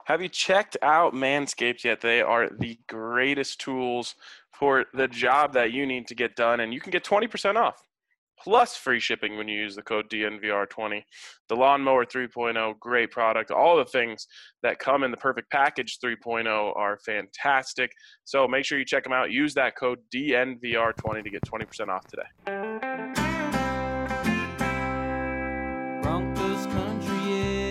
Have you checked out Manscaped yet? They are the greatest tools for the job that you need to get done, and you can get 20% off plus free shipping when you use the code DNVR20. The Lawnmower 3.0, great product. All the things that come in the Perfect Package 3.0 are fantastic. So make sure you check them out. Use that code DNVR20 to get 20% off today. Broncos country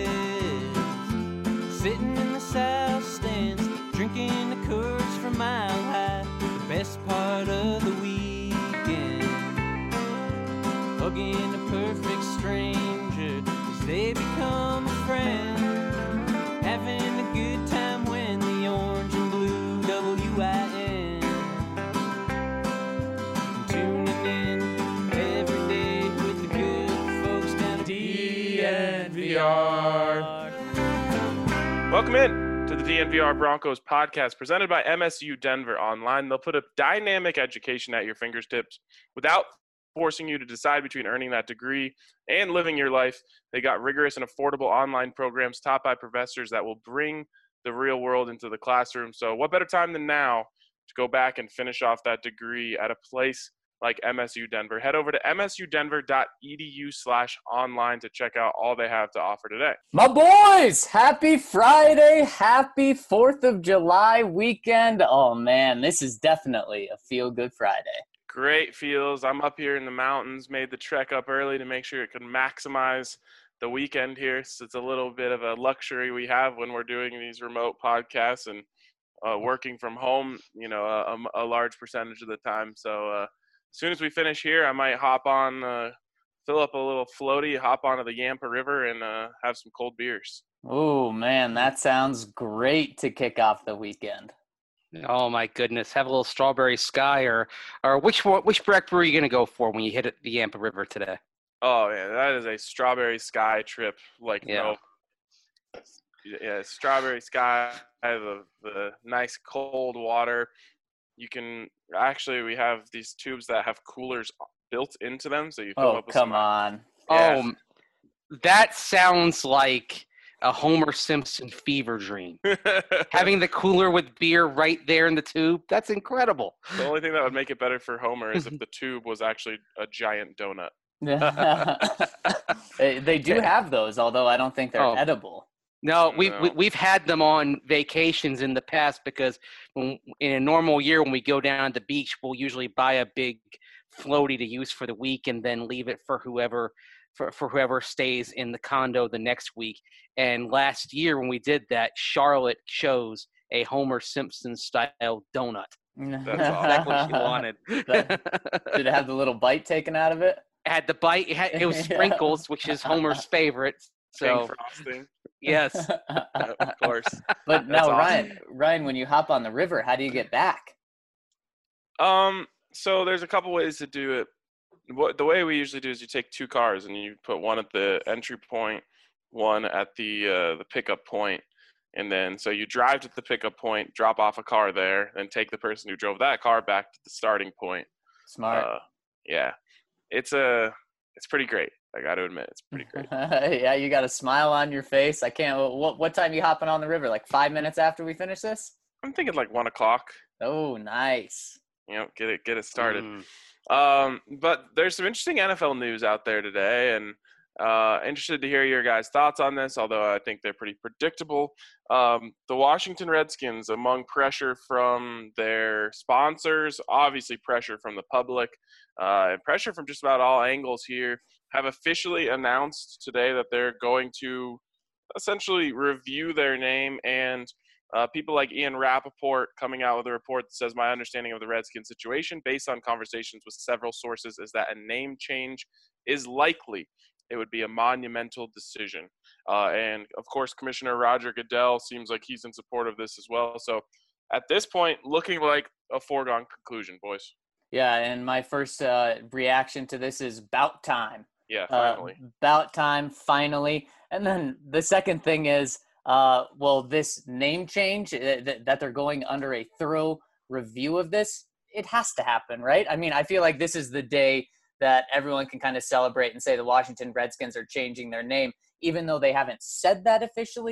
is sitting in the south stands, drinking the Coors from Mile High. The best part of the weekend, hugging a perfect stranger as they become a friend, having a good time when the orange and blue WIN, tuning in every day with the good folks down at DNVR. Welcome in to the DNVR Broncos podcast presented by MSU Denver Online. They'll put a dynamic education at your fingertips without forcing you to decide between earning that degree and living your life. They got rigorous and affordable online programs taught by professors that will bring the real world into the classroom. So what better time than now to go back and finish off that degree at a place like MSU Denver. Head over to msudenver.edu/online to check out all they have to offer today. My boys, happy Friday, happy 4th of July weekend. Oh man, this is definitely a feel-good Friday. Great feels. I'm up here in the mountains, made the trek up early to make sure it could maximize the weekend here. So it's a little bit of a luxury we have when we're doing these remote podcasts and working from home, you know, a large percentage of the time. So as soon as we finish here, I might hop on, fill up a little floaty, hop onto the Yampa River, and have some cold beers. Oh, man, that sounds great to kick off the weekend. Oh, my goodness. Have a little Strawberry Sky or which break brew are you going to go for when you hit the Yampa River today? Oh, yeah, that is a Strawberry Sky trip. Strawberry Sky, the nice cold water. You can we have these tubes that have coolers built into them, so you fill up with come on. Yeah. Oh, that sounds like a Homer Simpson fever dream. Having the cooler with beer right there in the tube, that's incredible. The only thing that would make it better for Homer is if the tube was actually a giant donut. They do have those, although I don't think they're edible. No, we've had them on vacations in the past because in a normal year when we go down to the beach, we'll usually buy a big floaty to use for the week and then leave it for whoever stays in the condo the next week. And last year when we did that, Charlotte chose a Homer Simpson style donut. That's exactly what she wanted. Did it have the little bite taken out of it? It had the bite. It was sprinkles, which is Homer's favorite. So frosting. Yes, of course. But now, awesome. Ryan, when you hop on the river, how do you get back? So there's a couple ways to do it. The way we usually do is you take two cars and you put one at the entry point, one at the pickup point, and then so you drive to the pickup point, drop off a car there, and take the person who drove that car back to the starting point. Smart. Yeah, it's pretty great. I got to admit, it's pretty great. Yeah, you got a smile on your face. I can't. What time are you hopping on the river? Like 5 minutes after we finish this? I'm thinking like 1 o'clock. Oh, nice. You know, get it started. But there's some interesting NFL news out there today, and interested to hear your guys' thoughts on this, although I think they're pretty predictable. The Washington Redskins, among pressure from their sponsors, obviously pressure from the public, and pressure from just about all angles here, have officially announced today that they're going to essentially review their name, and people like Ian Rappaport coming out with a report that says, my understanding of the Redskins situation based on conversations with several sources is that a name change is likely. It would be a monumental decision. And, of course, Commissioner Roger Goodell seems like he's in support of this as well. So at this point, looking like a foregone conclusion, boys. Yeah, and my first reaction to this is about time. Yeah, finally. About time, finally. And then the second thing is, this name change, that they're going under a thorough review of this, it has to happen, right? I mean, I feel like this is the day that everyone can kind of celebrate and say the Washington Redskins are changing their name, even though they haven't said that officially yet.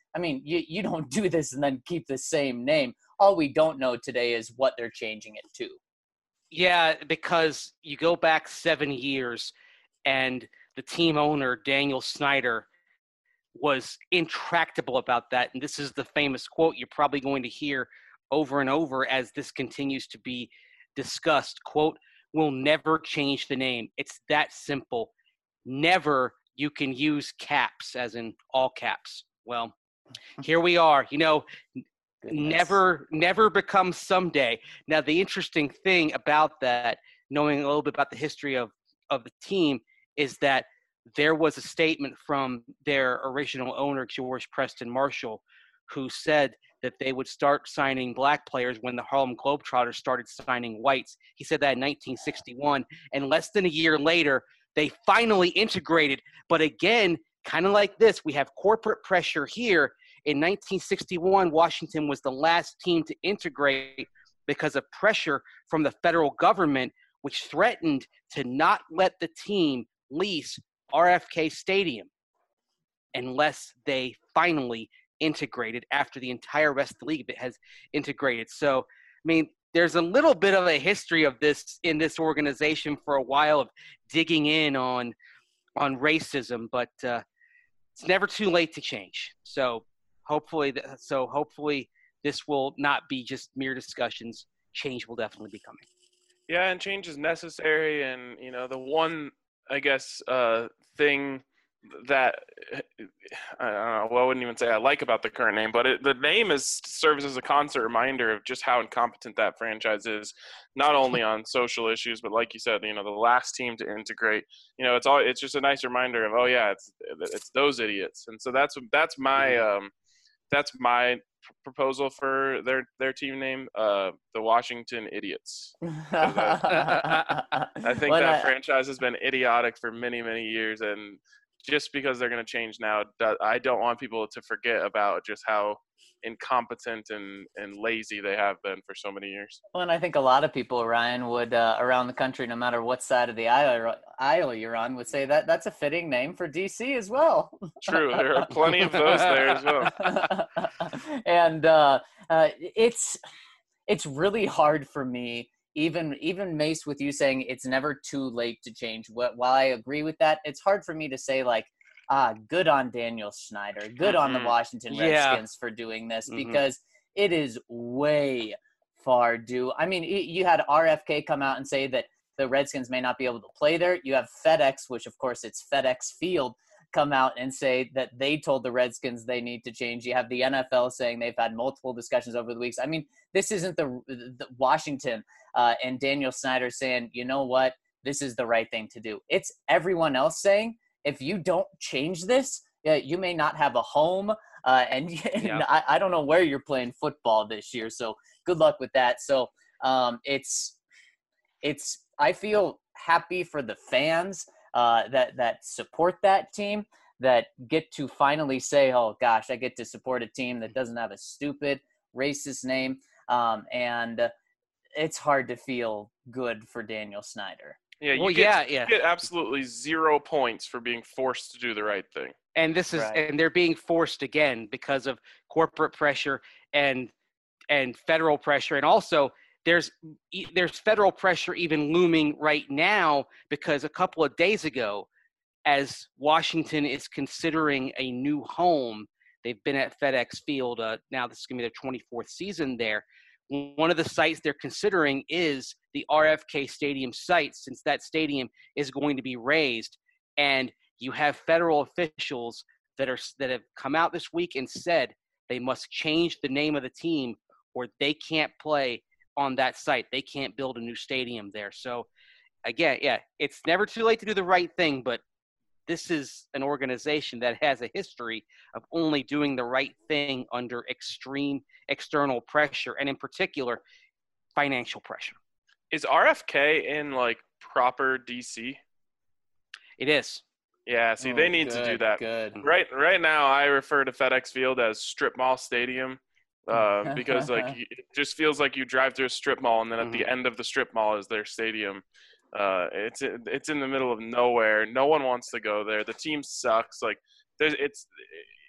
I mean, you don't do this and then keep the same name. All we don't know today is what they're changing it to. Yeah, because you go back 7 years and the team owner, Daniel Snyder, was intractable about that. And this is the famous quote you're probably going to hear over and over as this continues to be discussed. Quote, "We'll never change the name. It's that simple. Never, you can use caps, as in all caps." Well, here we are. Goodness. Never becomes someday. Now, the interesting thing about that, knowing a little bit about the history of the team, is that there was a statement from their original owner, George Preston Marshall, who said that they would start signing black players when the Harlem Globetrotters started signing whites. He said that in 1961, and less than a year later, they finally integrated. But again, kind of like this, we have corporate pressure here. In 1961, Washington was the last team to integrate because of pressure from the federal government, which threatened to not let the team lease RFK Stadium unless they finally integrated after the entire rest of the league has integrated. So, I mean, there's a little bit of a history of this in this organization for a while of digging in on racism, but it's never too late to change. So hopefully this will not be just mere discussions. Change will definitely be coming. Yeah, and change is necessary. And, the one, I guess, thing that I don't know, well, I wouldn't even say I like about the current name, but the name serves as a constant reminder of just how incompetent that franchise is, not only on social issues, but like you said, the last team to integrate. It's just a nice reminder of, oh yeah, it's those idiots. And so that's my proposal for their team name, the Washington Idiots. I think that franchise has been idiotic for many, many years, and just because they're going to change now, I don't want people to forget about just how incompetent and lazy they have been for so many years. Well, and I think a lot of people, Ryan, would around the country, no matter what side of the aisle you're on, would say that that's a fitting name for DC as well. True, there are plenty of those there as well. And it's really hard for me. Even Mace, with you saying it's never too late to change. While I agree with that, it's hard for me to say good on Daniel Snyder, good on the Washington Redskins for doing this, because it is way far due. I mean, you had RFK come out and say that the Redskins may not be able to play there. You have FedEx, which of course it's FedEx Field, come out and say that they told the Redskins they need to change. You have the NFL saying they've had multiple discussions over the weeks. I mean, this isn't the Washington and Daniel Snyder saying, you know what, this is the right thing to do. It's everyone else saying, if you don't change this, you may not have a home. And I don't know where you're playing football this year. So good luck with that. So I feel happy for the fans that support that team, that get to finally say, oh gosh, I get to support a team that doesn't have a stupid racist name. And it's hard to feel good for Daniel Snyder. Yeah, you get absolutely 0 points for being forced to do the right thing. And this is and they're being forced again because of corporate pressure and federal pressure, and also there's federal pressure even looming right now, because a couple of days ago, as Washington is considering a new home, they've been at FedEx Field. Now this is going to be their 24th season there. One of the sites they're considering is the RFK Stadium site, since that stadium is going to be raised. And you have federal officials that have come out this week and said they must change the name of the team or they can't play on that site. They can't build a new stadium there. So again, it's never too late to do the right thing, but this is an organization that has a history of only doing the right thing under extreme external pressure, and in particular, financial pressure. Is RFK in proper DC? It is. Yeah, see, they need to do that. Good. Right now, I refer to FedEx Field as Strip Mall Stadium because it just feels like you drive through a strip mall and then at the end of the strip mall is their stadium. It's in the middle of nowhere. No one wants to go there. The team sucks.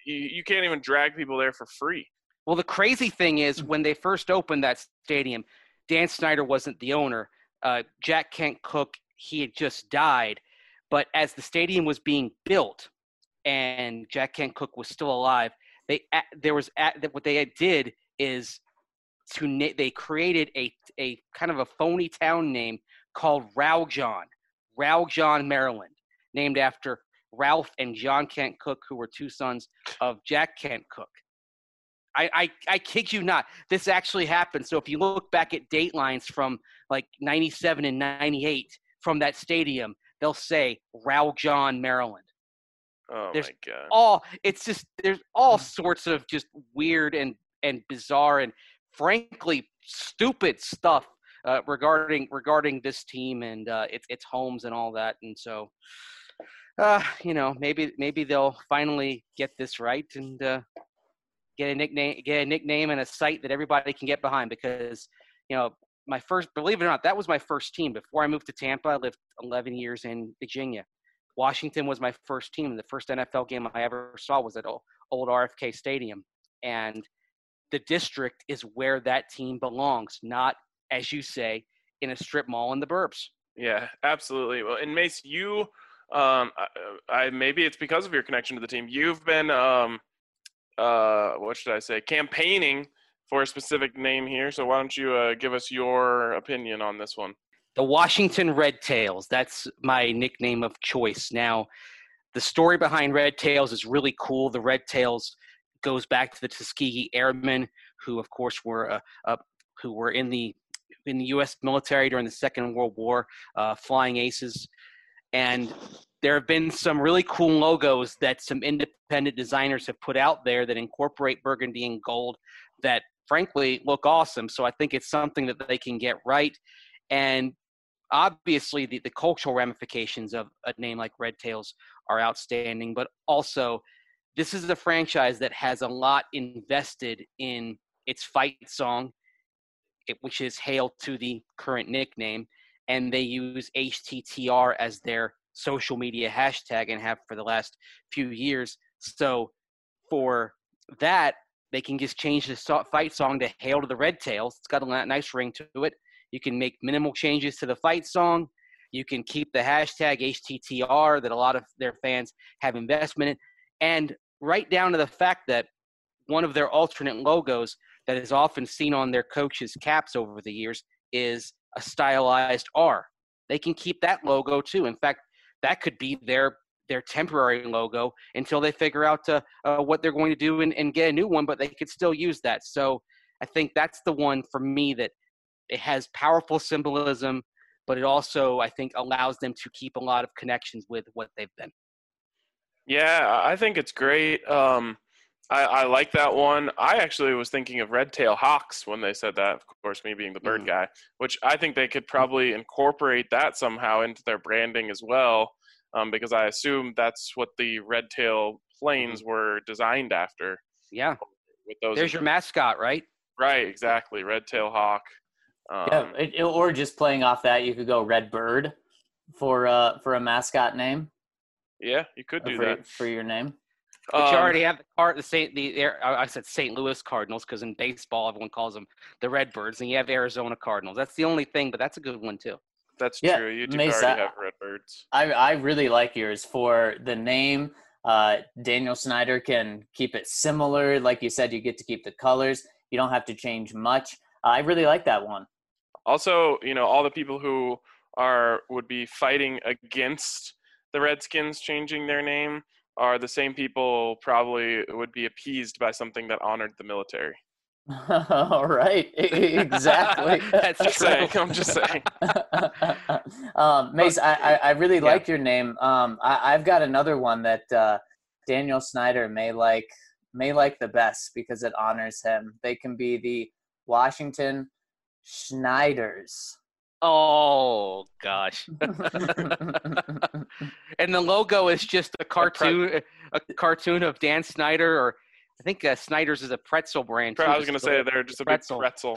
you can't even drag people there for free. Well, the crazy thing is when they first opened that stadium, Dan Snyder wasn't the owner. Jack Kent Cooke, he had just died. But as the stadium was being built and Jack Kent Cooke was still alive, what they did is they created a kind of a phony town name called Rowjohn, Maryland, named after Ralph and John Kent Cooke, who were two sons of Jack Kent Cooke. I kid you not. This actually happened. So if you look back at date lines from like 97 and 98 from that stadium, they'll say Rowjohn, Maryland. Oh, my God. There's all sorts of just weird and bizarre and frankly stupid stuff regarding this team and its homes and all that. And so, maybe they'll finally get this right and get a nickname and a site that everybody can get behind because, believe it or not, that was my first team. Before I moved to Tampa, I lived 11 years in Virginia. Washington was my first team. The first NFL game I ever saw was at old RFK Stadium. And the district is where that team belongs, not, as you say, in a strip mall in the burbs. Yeah, absolutely. Well, and Mace, you, maybe it's because of your connection to the team. You've been, campaigning for a specific name here. So why don't you give us your opinion on this one? The Washington Red Tails. That's my nickname of choice. Now, the story behind Red Tails is really cool. The Red Tails goes back to the Tuskegee Airmen, who, of course, were in the U.S. military during the Second World War, flying aces. And there have been some really cool logos that some independent designers have put out there that incorporate burgundy and gold that, frankly, look awesome. So I think it's something that they can get right. And obviously, the cultural ramifications of a name like Red Tails are outstanding, but also this is a franchise that has a lot invested in its fight song, which is Hail to the current nickname, and they use HTTR as their social media hashtag and have for the last few years. So for that, they can just change the fight song to Hail to the Red Tails. It's got a nice ring to it. You can make minimal changes to the fight song. You can keep the hashtag HTTR that a lot of their fans have investment in. And right down to the fact that one of their alternate logos that is often seen on their coaches' caps over the years is a stylized R. They can keep that logo too. In fact, that could be their temporary logo until they figure out what they're going to do and get a new one, but they could still use that. So I think that's the one for me that it has powerful symbolism, but it also, I think, allows them to keep a lot of connections with what they've been. Yeah, I think it's great. I like that one. I actually was thinking of Red Tail Hawks when they said that, of course, me being the bird guy, which I think they could probably incorporate that somehow into their branding as well, because I assume that's what the Red Tail planes were designed after. Yeah. With those There's your mascot, right? Right, exactly. Red Tail Hawk. Or just playing off that, you could go Red Bird for a mascot name. Yeah, you could do that for your name. But you already have I said St. Louis Cardinals because in baseball everyone calls them the Redbirds, and you have Arizona Cardinals. That's the only thing, but that's a good one too. That's true. You do already have Redbirds. I really like yours for the name. Daniel Snyder can keep it similar. Like you said, you get to keep the colors. You don't have to change much. I really like that one. Also, all the people who would be fighting against the Redskins changing their name are the same people probably would be appeased by something that honored the military. All right, exactly. That's true. I'm just saying. Mace, I really like your name. I've got another one that Daniel Snyder may like the best because it honors him. They can be the Washington Schneiders. Oh gosh. And the logo is just a cartoon of Dan Snyder, or I think Snyder's is a pretzel brand too. I was going to say they're just a big pretzel.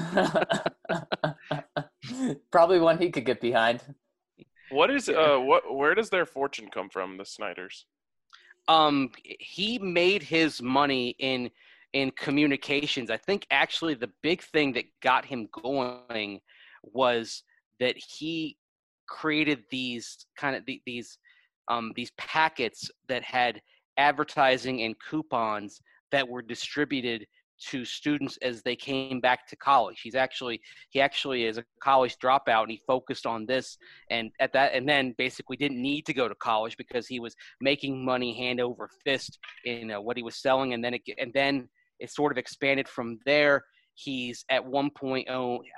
Probably one he could get behind. What is where does their fortune come from, the Snyders? He made his money in communications. I think actually the big thing that got him going was that he created these kind of these packets that had advertising and coupons that were distributed to students as they came back to college. He actually is a college dropout, and he focused on this and then basically didn't need to go to college because he was making money hand over fist in what he was selling, and then it sort of expanded from there. He's at one point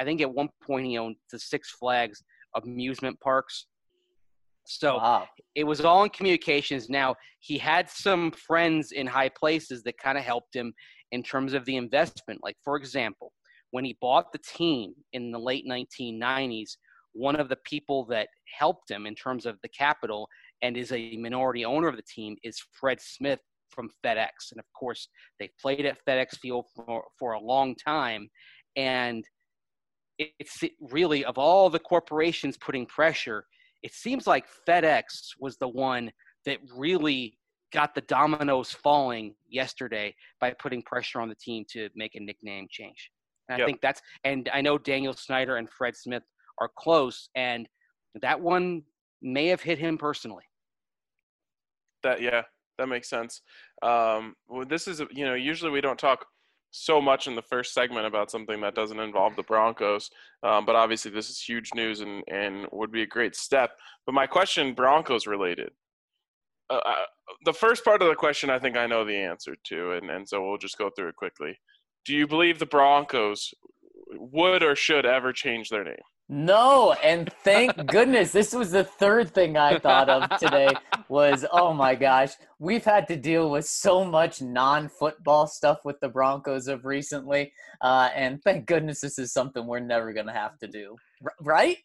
he owned the Six Flags amusement parks. So Wow. It was all in communications. Now, he had some friends in high places that kind of helped him in terms of the investment. Like, for example, when he bought the team in the late 1990s, one of the people that helped him in terms of the capital and is a minority owner of the team is Fred Smith from FedEx. And, of course, they played at FedEx Field for a long time. And it's really, of all the corporations putting pressure, it seems like FedEx was the one that really got the dominoes falling yesterday by putting pressure on the team to make a nickname change. And I think and I know Daniel Snyder and Fred Smith are close, and that one may have hit him personally. That makes sense. Well, this is, usually we don't talk so much in the first segment about something that doesn't involve the Broncos. But obviously this is huge news and would be a great step. But my question, Broncos related. The first part of the question, I think I know the answer to, and so we'll just go through it quickly. Do you believe the Broncos would or should ever change their name? No, and thank goodness. This was the third thing I thought of today was, oh my gosh, we've had to deal with so much non-football stuff with the Broncos of recently, and thank goodness this is something we're never going to have to do. Right?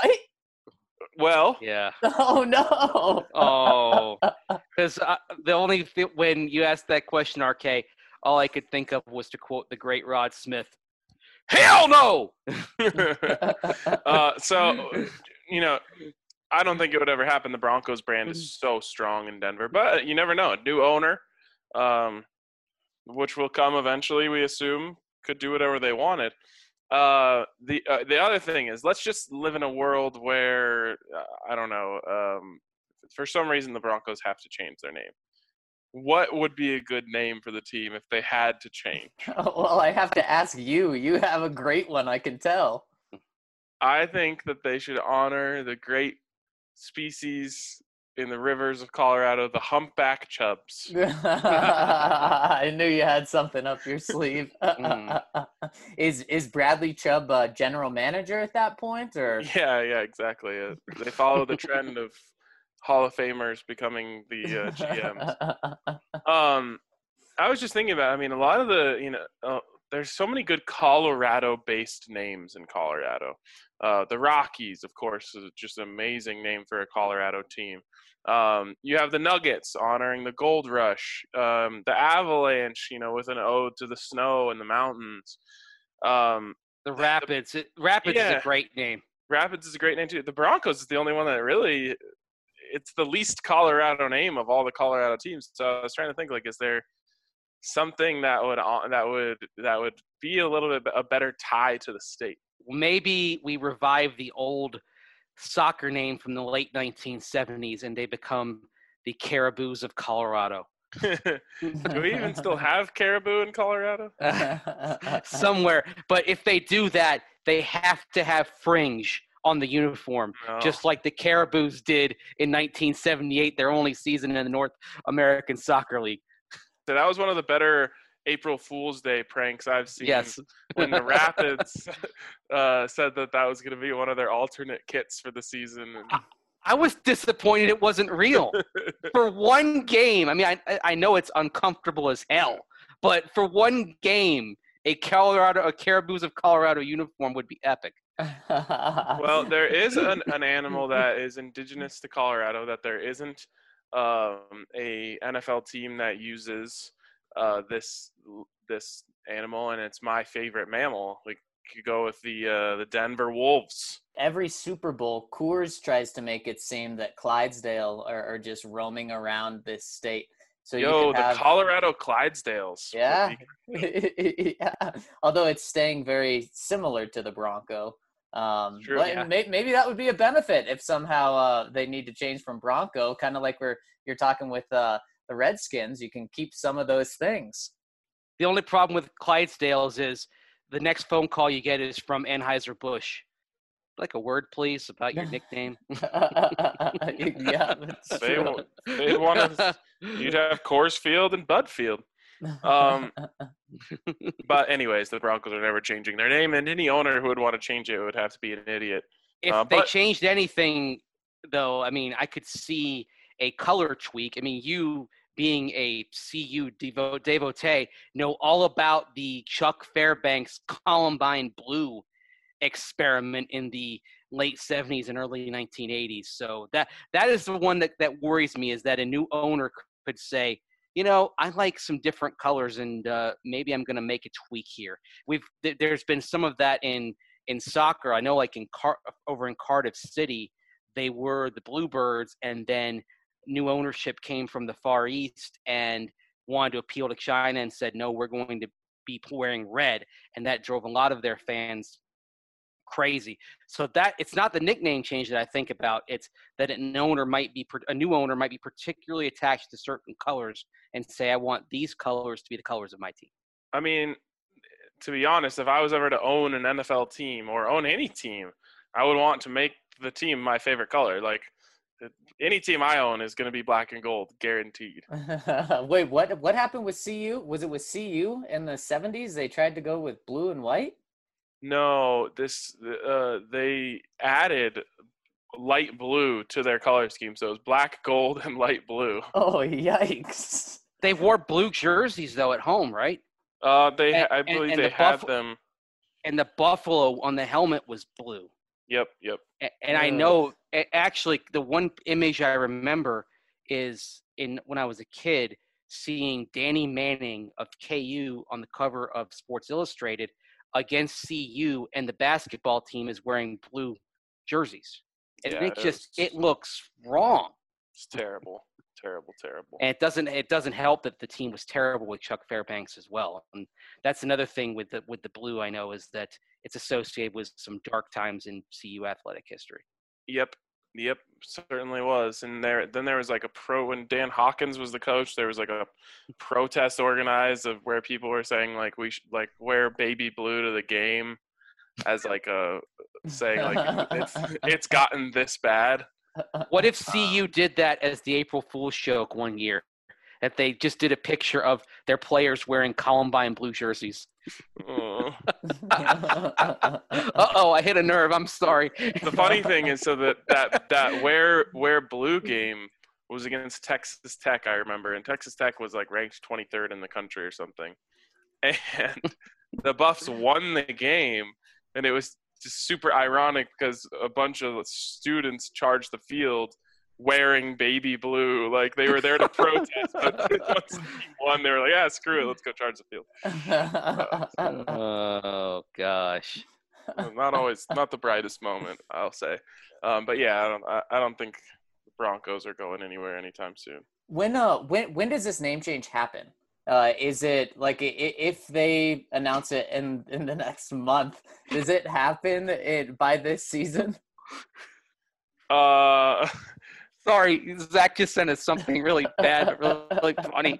Well, yeah. Oh, no. Oh, because the only when you asked that question, RK, all I could think of was to quote the great Rod Smith. Hell no! So, I don't think it would ever happen. The Broncos brand is so strong in Denver, but you never know. A new owner, which will come eventually, we assume, could do whatever they wanted. The other thing is, let's just live in a world where, I don't know, for some reason the Broncos have to change their name. What would be a good name for the team if they had to change? Well, I have to ask you. You have a great one, I can tell. I think that they should honor the great species in the rivers of Colorado, the humpback chubs. I knew you had something up your sleeve. Is Bradley Chubb general manager at that point, or? Yeah, exactly. They follow the trend of Hall of Famers becoming the GMs. I was just thinking about, a lot of the, there's so many good Colorado-based names in Colorado. The Rockies, of course, is just an amazing name for a Colorado team. You have the Nuggets honoring the Gold Rush. The Avalanche, with an ode to the snow and the mountains. The Rapids. Rapids is a great name. Rapids is a great name, too. The Broncos is the only one that really – it's the least Colorado name of all the Colorado teams. So I was trying to think, is there something that would be a little bit a better tie to the state? Maybe we revive the old soccer name from the late 1970s and they become the Caribous of Colorado. Do we even still have caribou in Colorado? Somewhere. But if they do that, they have to have fringe on the uniform, just like the Caribous did in 1978, their only season in the North American Soccer League. So that was one of the better April Fool's Day pranks I've seen. Yes. When the Rapids said that was going to be one of their alternate kits for the season. I was disappointed it wasn't real. For one game, I know it's uncomfortable as hell, but for one game, a Caribous of Colorado uniform would be epic. Well, there is an animal that is indigenous to Colorado that there isn't a NFL team that uses this animal, and it's my favorite mammal. We could go with the Denver Wolves. Every Super Bowl, Coors tries to make it seem that Clydesdale are just roaming around this state. So you could the have, Colorado Clydesdales. yeah, yeah. Although it's staying very similar to the Bronco. True, But yeah. maybe that would be a benefit if somehow they need to change from Bronco, kind of like you're talking with the Redskins. You can keep some of those things. The only problem with Clydesdales is the next phone call you get is from Anheuser-Busch. Like a word, please, about your nickname. Yeah, that's true. They want to. You'd have Coors Field and Bud Field. But anyways, the Broncos are never changing their name, and any owner who would want to change it would have to be an idiot. If they changed anything, though, I mean, I could see a color tweak. I mean, you being a CU devotee know all about the Chuck Fairbanks Columbine Blue experiment in the late 70s and early 1980s. So that is the one that worries me, is that a new owner could say, you know, I like some different colors, and maybe I'm going to make a tweak here. There's been some of that in soccer. I know, like over in Cardiff City, they were the Bluebirds, and then new ownership came from the Far East and wanted to appeal to China and said, no, we're going to be wearing red, and that drove a lot of their fans crazy. So that it's not the nickname change that I think about. It's that a new owner might be particularly attached to certain colors and say, I want these colors to be the colors of my team. I mean, to be honest, if I was ever to own an NFL team or own any team, I would want to make the team my favorite color. Like, any team I own is going to be black and gold, guaranteed. Wait, what happened with CU? Was it with CU in the 70s? They tried to go with blue and white? No, they added light blue to their color scheme, so it was black, gold, and light blue. Oh, yikes! They wore blue jerseys though at home, right? I believe they had them. And the buffalo on the helmet was blue. Yep. And I know, actually, the one image I remember is when I was a kid, seeing Danny Manning of KU on the cover of Sports Illustrated against CU, and the basketball team is wearing blue jerseys. And it looks wrong. It's terrible. And it doesn't help that the team was terrible with Chuck Fairbanks as well. And that's another thing with the blue, I know, is that it's associated with some dark times in CU athletic history. Yep, certainly was. And there was like when Dan Hawkins was the coach, there was like a protest organized of where people were saying like we should like wear baby blue to the game, as like saying like it's gotten this bad. What if CU did that as the April Fool's joke one year? That they just did a picture of their players wearing Columbine blue jerseys. Uh-oh, I hit a nerve. I'm sorry. The funny thing is, so that wear blue game was against Texas Tech, I remember, and Texas Tech was like ranked 23rd in the country or something, and the Buffs won the game, and it was just super ironic because a bunch of students charged the field wearing baby blue, like they were there to protest, but once the team won, they were like, yeah, screw it, let's go charge the field. Oh gosh. Not the brightest moment, I'll say. But yeah, I don't think the Broncos are going anywhere anytime soon. When does this name change happen? Is it like if they announce it in the next month, does it happen by this season? Sorry, Zach just sent us something really bad, really funny.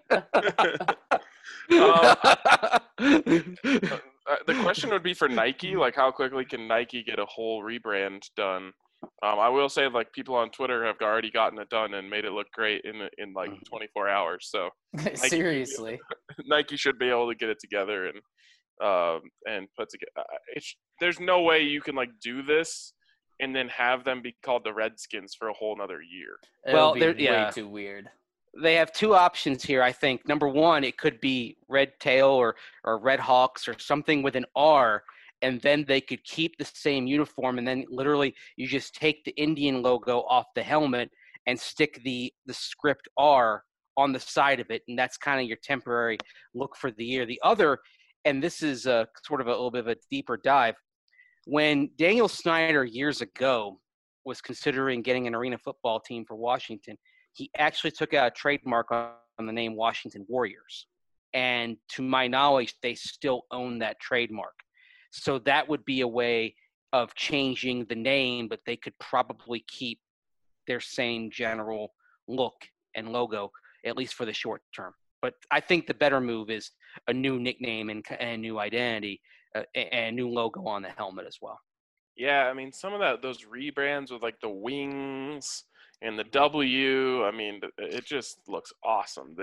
The question would be for Nike, like how quickly can Nike get a whole rebrand done? I will say, like, people on Twitter have already gotten it done and made it look great in like 24 hours. So seriously, Nike should be able to get it together and put together. There's no way you can like do this and then have them be called the Redskins for a whole nother year. Well, they're way too weird. They have two options here, I think. Number one, it could be Red Tail or Red Hawks or something with an R, and then they could keep the same uniform, and then literally you just take the Indian logo off the helmet and stick the script R on the side of it, and that's kind of your temporary look for the year. The other, and this is sort of a little bit of a deeper dive, when Daniel Snyder years ago was considering getting an arena football team for Washington, he actually took out a trademark on from the name Washington Warriors. And to my knowledge, they still own that trademark. So that would be a way of changing the name, but they could probably keep their same general look and logo, at least for the short term. But I think the better move is a new nickname and a new identity and a new logo on the helmet as well. Yeah, I mean, some of those rebrands with like the wings and the W, I mean, it just looks awesome.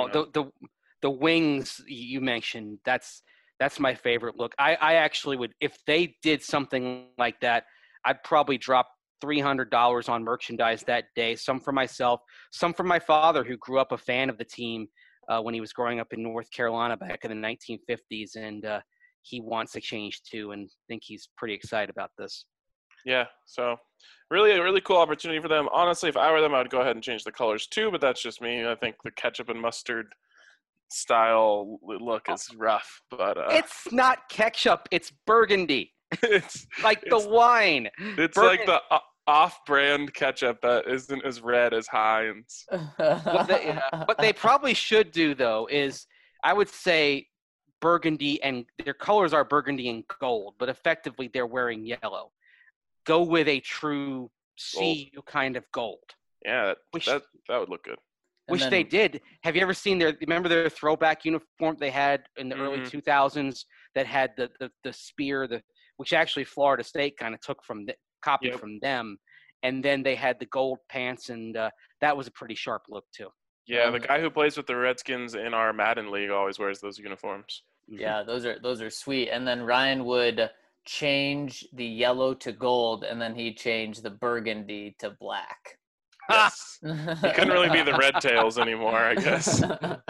The wings you mentioned, that's my favorite look. I actually would, if they did something like that, I'd probably drop $300 on merchandise that day. Some for myself, some for my father, who grew up a fan of the team when he was growing up in North Carolina back in the 1950s, and he wants to change too, and I think he's pretty excited about this. Yeah, so really a really cool opportunity for them. Honestly, if I were them, I would go ahead and change the colors too, but that's just me. I think the ketchup and mustard style look is rough, but it's not ketchup, it's burgundy. it's like the wine. It's burgundy. Like the off-brand ketchup that isn't as red as Heinz. What they probably should do, though, is I would say burgundy, and their colors are burgundy and gold, but effectively they're wearing yellow. Go with a true CU kind of gold. Yeah, that would look good. Which they did. Have you ever seen remember their throwback uniform they had in the early 2000s that had the spear, which actually Florida State kind of took copied from them, and then they had the gold pants, and that was a pretty sharp look too. Yeah, the guy who plays with the Redskins in our Madden league always wears those uniforms. Yeah, those are sweet. And then Ryan would change the yellow to gold, and then he'd change the burgundy to black. Yes. He couldn't really be the Red Tails anymore, I guess.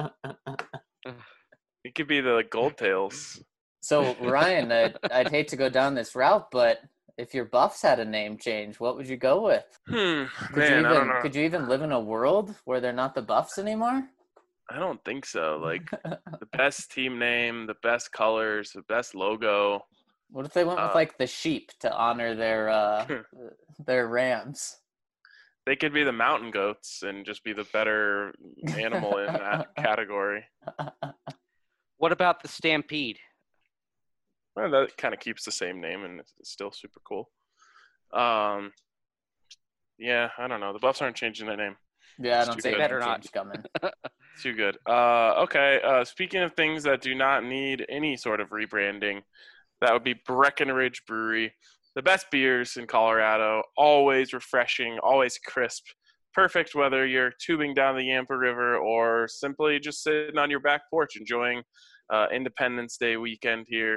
He could be the Gold Tails. So, Ryan, I'd hate to go down this route, but if your Buffs had a name change, what would you go with? I don't know. Could you even live in a world where they're not the Buffs anymore? I don't think so. Like, the best team name, the best colors, the best logo. What if they went with, like, the sheep to honor their rams? They could be the mountain goats and just be the better animal in that category. What about the Stampede? Well, that kind of keeps the same name, and it's still super cool. Yeah, I don't know. The Buffs aren't changing their name. Yeah, I don't think better not coming. Too good. Okay. Speaking of things that do not need any sort of rebranding, that would be Breckenridge Brewery. The best beers in Colorado, always refreshing, always crisp. Perfect whether you're tubing down the Yampa River or simply just sitting on your back porch enjoying Independence Day weekend here.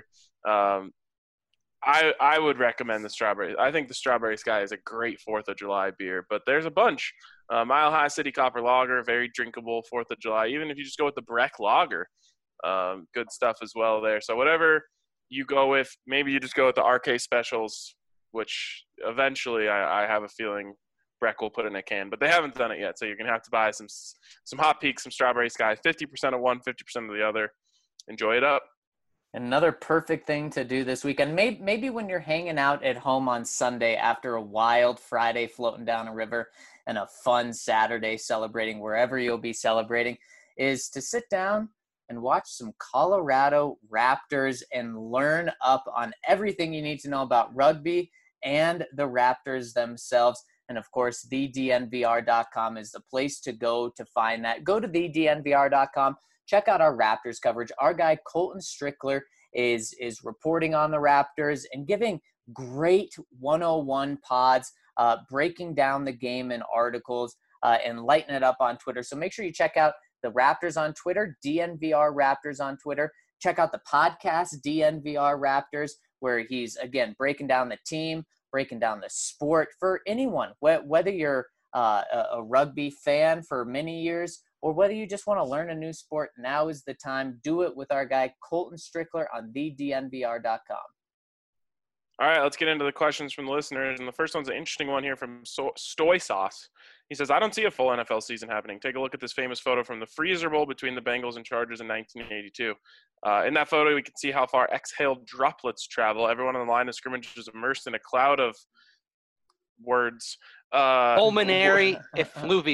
I would recommend the Strawberry. I think the Strawberry Sky is a great 4th of July beer, but there's a bunch. Mile High City Copper Lager, very drinkable 4th of July. Even if you just go with the Breck Lager, good stuff as well there. So whatever you go with, maybe you just go with the RK Specials, which eventually I have a feeling Breck will put in a can, but they haven't done it yet. So you're going to have to buy some Hot Peaks, some Strawberry Sky, 50% of one, 50% of the other. Enjoy it up. Another perfect thing to do this weekend, maybe when you're hanging out at home on Sunday after a wild Friday floating down a river and a fun Saturday celebrating wherever you'll be celebrating, is to sit down and watch some Colorado Raptors and learn up on everything you need to know about rugby and the Raptors themselves. And of course, thednvr.com is the place to go to find that. Go to thednvr.com. Check out our Raptors coverage. Our guy, Colton Strickler, is reporting on the Raptors and giving great 101 pods, breaking down the game in articles, and lighting it up on Twitter. So make sure you check out the Raptors on Twitter, DNVR Raptors on Twitter. Check out the podcast, DNVR Raptors, where he's, again, breaking down the team, breaking down the sport for anyone, whether you're a rugby fan for many years or whether you just want to learn a new sport. Now is the time. Do it with our guy, Colton Strickler, on thednvr.com. All right, let's get into the questions from the listeners. And the first one's an interesting one here from Stoy Sauce. He says, I don't see a full NFL season happening. Take a look at this famous photo from the Freezer Bowl between the Bengals and Chargers in 1982. In that photo, we can see how far exhaled droplets travel. Everyone on the line of scrimmage is immersed in a cloud of words. Pulmonary effluvia.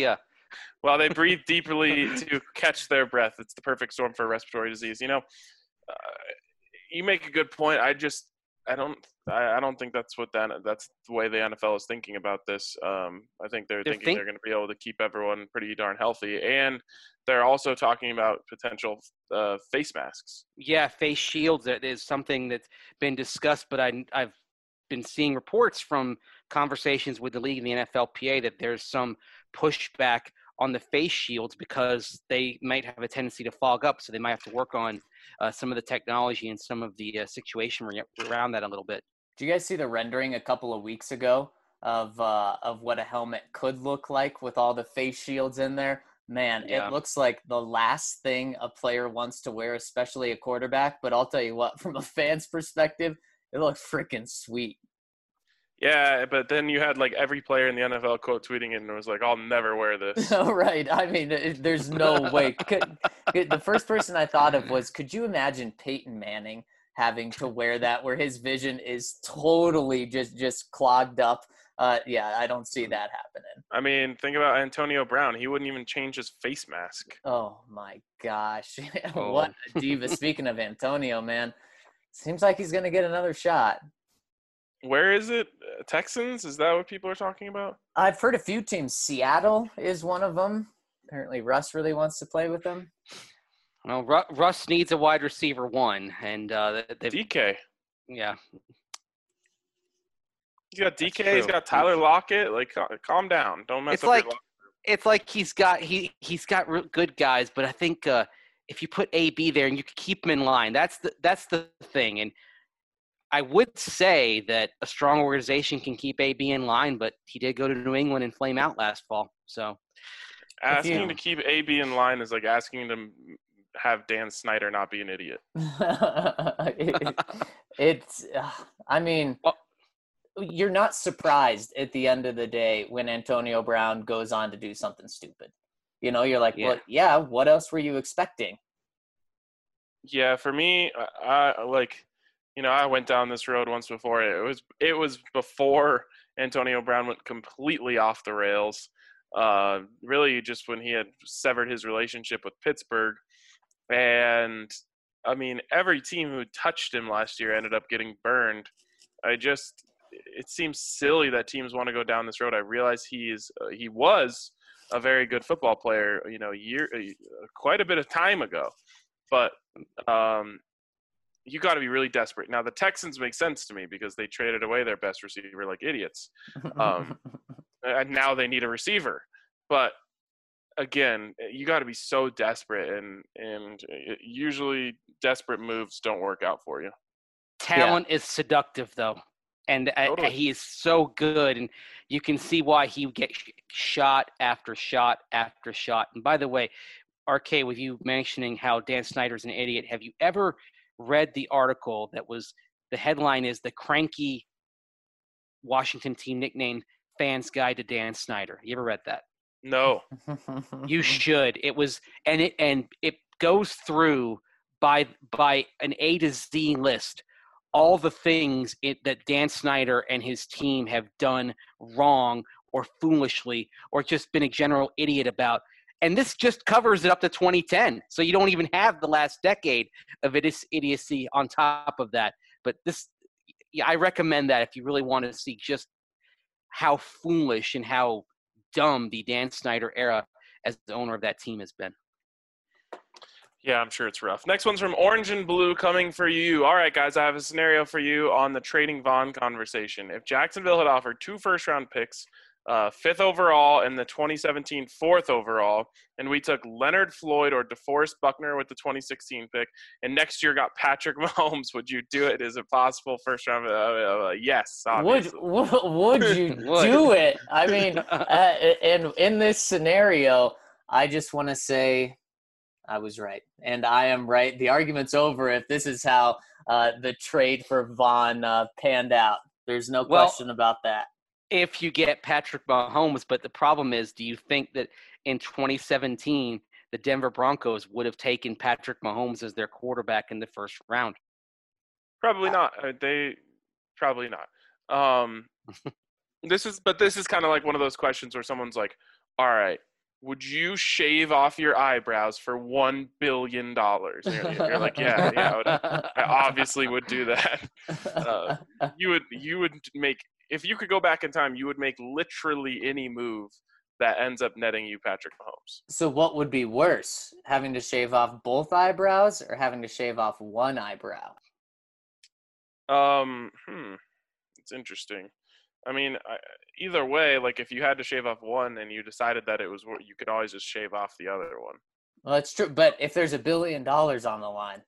while they breathe deeply to catch their breath. It's the perfect storm for respiratory disease. You make a good point. I don't think that's that's the way the NFL is thinking about this. I think they're thinking they're going to be able to keep everyone pretty darn healthy, and they're also talking about potential face masks. Yeah, face shields is something that's been discussed, but I've been seeing reports from conversations with the league and the NFLPA that there's some pushback on the face shields because they might have a tendency to fog up, so they might have to work on some of the technology and some of the situation around that a little bit. Do you guys see the rendering a couple of weeks ago of what a helmet could look like with all the face shields in there? Man, Yeah. It looks like the last thing a player wants to wear, especially a quarterback. But I'll tell you what, from a fan's perspective, it looks freaking sweet. Yeah, but then you had like every player in the NFL quote tweeting it and it was like, I'll never wear this. Right. I mean, there's no way. The first person I thought of was, could you imagine Peyton Manning having to wear that where his vision is totally just clogged up? Yeah, I don't see that happening. I mean, think about Antonio Brown. He wouldn't even change his face mask. Oh, my gosh. Oh. What a diva. Speaking of Antonio, man, seems like he's going to get another shot. Where is it? Texans? Is that what people are talking about? I've heard a few teams. Seattle is one of them. Apparently, Russ really wants to play with them. Well, Russ needs a wide receiver one, and DK. Yeah. He's got DK. He's got Tyler Lockett. Like, calm down. Don't mess up your It's like he's got good guys, but I think if you put AB there and you can keep him in line, that's the thing. And I would say that a strong organization can keep AB in line, but he did go to New England and flame out last fall. So asking to keep AB in line is like asking to have Dan Snyder not be an idiot. I mean, you're not surprised at the end of the day when Antonio Brown goes on to do something stupid. You're like, well, yeah, what else were you expecting? Yeah, for me, I went down this road once before. It was before Antonio Brown went completely off the rails. Really, just when he had severed his relationship with Pittsburgh, and I mean, every team who touched him last year ended up getting burned. It seems silly that teams want to go down this road. I realize he was a very good football player, quite a bit of time ago, but you got to be really desperate. Now, the Texans make sense to me because they traded away their best receiver like idiots. And now they need a receiver. But, again, you got to be so desperate, and usually desperate moves don't work out for you. Talent is seductive, though. And Totally. he is so good, and you can see why he would get shot after shot after shot. And by the way, RK, with you mentioning how Dan Snyder's an idiot, have you ever read the article that was – the headline is "The Cranky Washington Team Nicknamed Fans Guide to Dan Snyder"? You ever read that? No. You should. It was – and it goes through by an A to Z list all the things that Dan Snyder and his team have done wrong or foolishly or just been a general idiot about. And this just covers it up to 2010. So you don't even have the last decade of idiocy on top of that. But I recommend that if you really want to see just how foolish and how dumb the Dan Snyder era as the owner of that team has been. Yeah, I'm sure it's rough. Next one's from Orange and Blue coming for you. All right, guys, I have a scenario for you on the trading Vaughn conversation. If Jacksonville had offered 2 first-round picks, 5th overall and the 2017 4th overall, and we took Leonard Floyd or DeForest Buckner with the 2016 pick, and next year got Patrick Mahomes, would you do it? Is it possible first round? Yes, obviously. Would you do it? I mean, in this scenario, I just want to say I was right, and I am right. The argument's over if this is how the trade for Vaughn panned out. There's no question about that. If you get Patrick Mahomes, but the problem is, do you think that in 2017 the Denver Broncos would have taken Patrick Mahomes as their quarterback in the first round? Probably not. Probably not. This is kind of like one of those questions where someone's like, all right, would you shave off your eyebrows for $1 billion? And you're like, yeah, I obviously would do that. You would make, if you could go back in time, you would make literally any move that ends up netting you Patrick Mahomes. So what would be worse, having to shave off both eyebrows or having to shave off one eyebrow? It's interesting. I mean, either way, like if you had to shave off one and you decided that it was, you could always just shave off the other one. Well, that's true. But if there's $1 billion on the line,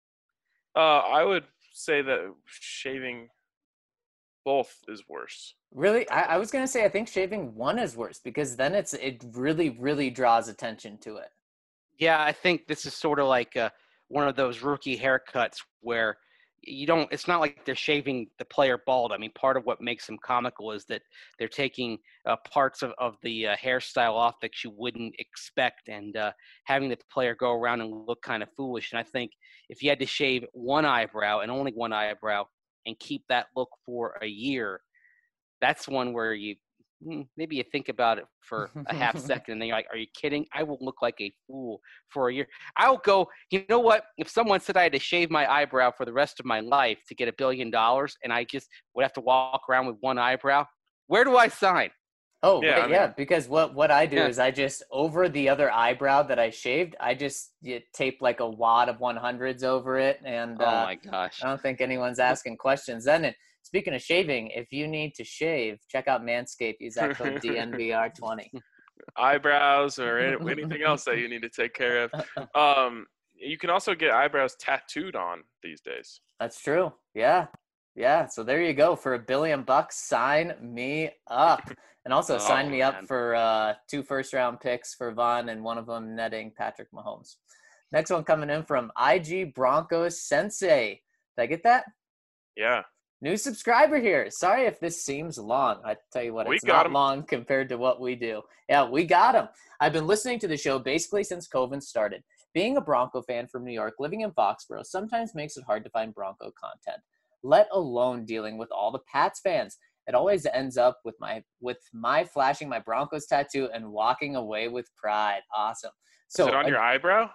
I would say that shaving both is worse. really, I was gonna say I think shaving one is worse because then it really, really draws attention to it. Yeah, I think this is sort of like one of those rookie haircuts where it's not like they're shaving the player bald. I mean, part of what makes them comical is that they're taking parts of the hairstyle off that you wouldn't expect and having the player go around and look kind of foolish. And I think if you had to shave one eyebrow and only one eyebrow and keep that look for a year, that's one where maybe you think about it for a half second and then you're like, are you kidding? I will look like a fool for a year. I'll go, you know what? If someone said I had to shave my eyebrow for the rest of my life to get $1 billion and I just would have to walk around with one eyebrow, where do I sign? Oh, yeah, right, yeah, because what I do is I just, over the other eyebrow that I shaved, I just tape like a wad of 100s over it. And oh my gosh, I don't think anyone's asking questions. Then speaking of shaving, if you need to shave, check out Manscaped. Use that code DNVR20. Eyebrows or anything else that you need to take care of. You can also get eyebrows tattooed on these days. That's true. Yeah. So there you go. For $1 billion, sign me up. And also sign me up for 2 first-round picks for Von and one of them netting Patrick Mahomes. Next one coming in from IG Broncos Sensei. Did I get that? Yeah. New subscriber here. Sorry if this seems long. I tell you what, it's not long compared to what we do. Yeah, we got him. I've been listening to the show basically since COVID started. Being a Bronco fan from New York, living in Foxborough, sometimes makes it hard to find Bronco content, let alone dealing with all the Pats fans. It always ends up with my flashing my Broncos tattoo and walking away with pride. Awesome. So, is it on your eyebrow?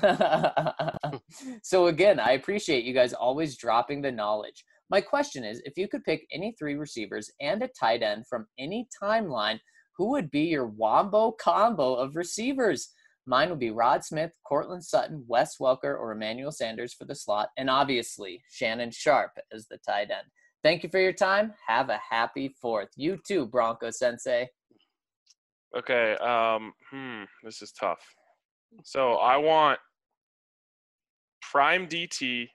So again, I appreciate you guys always dropping the knowledge. My question is, if you could pick any 3 receivers and a tight end from any timeline, who would be your wombo combo of receivers? Mine would be Rod Smith, Courtland Sutton, Wes Welker, or Emmanuel Sanders for the slot, and obviously Shannon Sharpe as the tight end. Thank you for your time. Have a happy 4th. You too, Bronco Sensei. Okay. This is tough. So I want prime DT.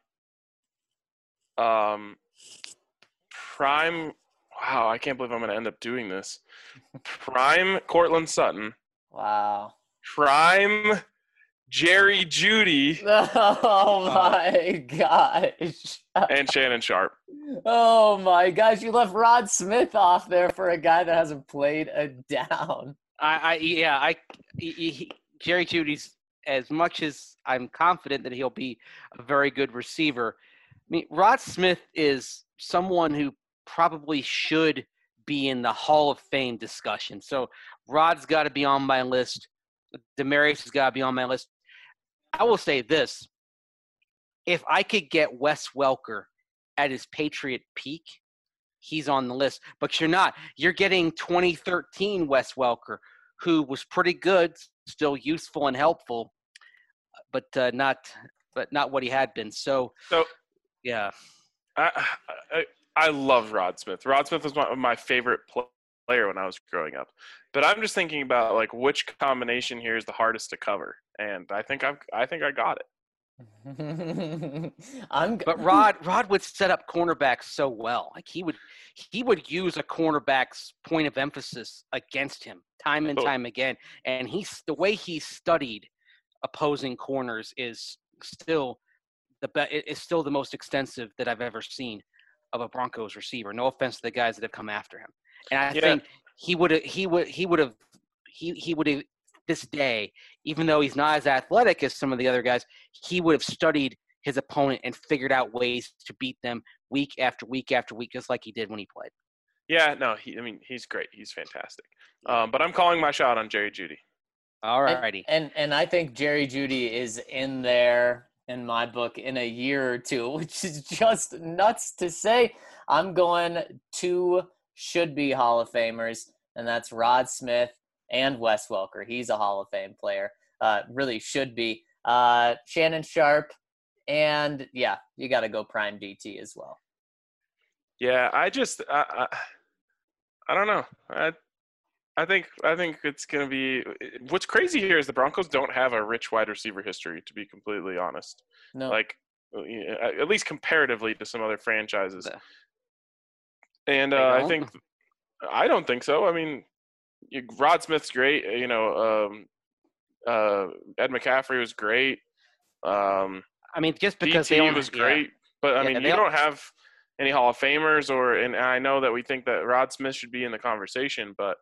Prime. Wow, I can't believe I'm going to end up doing this. Prime Courtland Sutton. Wow. Prime Jerry Jeudy. Oh my gosh. And Shannon Sharpe. Oh my gosh, you left Rod Smith off there for a guy that hasn't played a down. Jerry Jeudy's, as much as I'm confident that he'll be a very good receiver. I mean, Rod Smith is someone who probably should be in the Hall of Fame discussion. So Rod's got to be on my list. Demaryius has got to be on my list. I will say this. If I could get Wes Welker at his Patriot peak, he's on the list. But you're not. You're getting 2013 Wes Welker, who was pretty good, still useful and helpful, but not what he had been. So yeah. I love Rod Smith. Rod Smith was my favorite player when I was growing up. But I'm just thinking about like which combination here is the hardest to cover, and I think I got it. But Rod would set up cornerbacks so well. Like he would use a cornerback's point of emphasis against him time and time again. And the way he studied opposing corners is still the most extensive that I've ever seen of a Broncos receiver. No offense to the guys that have come after him. And I think he would have this day, even though he's not as athletic as some of the other guys, he would have studied his opponent and figured out ways to beat them week after week after week, just like he did when he played. Yeah, no, he's great. He's fantastic. But I'm calling my shot on Jerry Jeudy. All righty. And I think Jerry Jeudy is in there in my book in a year or two, which is just nuts to say. I'm going 2 should-be Hall of Famers, and that's Rod Smith and Wes Welker. He's a Hall of Fame player. Really should be. Shannon Sharp, and yeah, you got to go Prime DT as well. Yeah, I don't know. I think it's going to be – what's crazy here is the Broncos don't have a rich wide receiver history, to be completely honest. No. Like, at least comparatively to some other franchises. And I don't think so. I mean, Rod Smith's great. Ed McCaffrey was great. I mean, just because DT was great. But, I mean, you don't have any Hall of Famers and I know that we think that Rod Smith should be in the conversation, but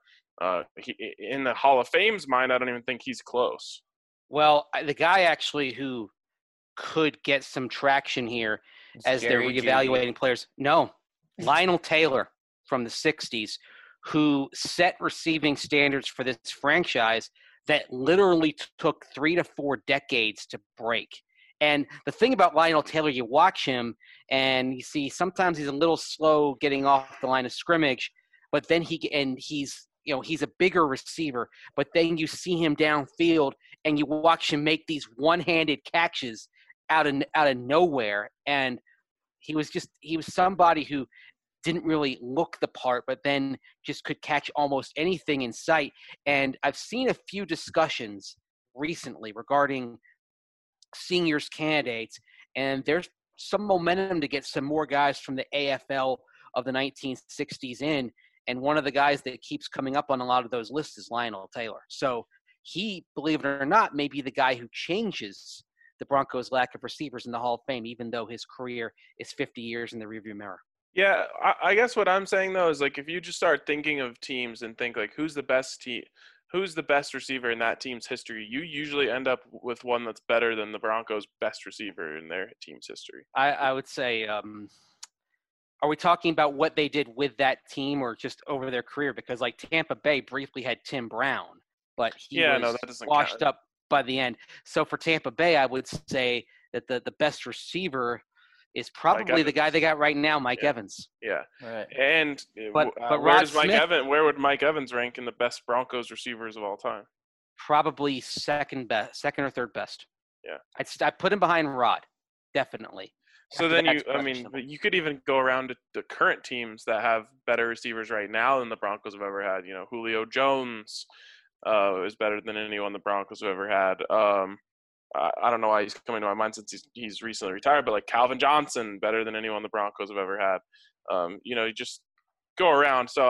in the Hall of Fame's mind, I don't even think he's close. Well, the guy actually who could get some traction here as they're reevaluating players. No, Lionel Taylor from the 60s, who set receiving standards for this franchise that literally took 3 to 4 decades to break. And the thing about Lionel Taylor, you watch him and you see sometimes he's a little slow getting off the line of scrimmage, but then he's a bigger receiver, but then you see him downfield and you watch him make these one-handed catches out of nowhere. And he was somebody who didn't really look the part, but then just could catch almost anything in sight. And I've seen a few discussions recently regarding seniors candidates, and there's some momentum to get some more guys from the AFL of the 1960s in. And one of the guys that keeps coming up on a lot of those lists is Lionel Taylor. So he, believe it or not, may be the guy who changes the Broncos' lack of receivers in the Hall of Fame, even though his career is 50 years in the rearview mirror. Yeah, I guess what I'm saying, though, is like if you just start thinking of teams and think like who's the best receiver in that team's history, you usually end up with one that's better than the Broncos' best receiver in their team's history. I would say are we talking about what they did with that team or just over their career? Because like Tampa Bay briefly had Tim Brown, but he was washed up by the end. So for Tampa Bay, I would say that the best receiver is probably the guy they got right now, Mike Evans. Yeah. Right. And but where would Mike Evans rank in the best Broncos receivers of all time? Probably second or third best. Yeah. I'd put him behind Rod, definitely. So then you could even go around to the current teams that have better receivers right now than the Broncos have ever had. Julio Jones is better than anyone the Broncos have ever had. I don't know why he's coming to my mind since he's recently retired, but like Calvin Johnson, better than anyone the Broncos have ever had. You just go around. So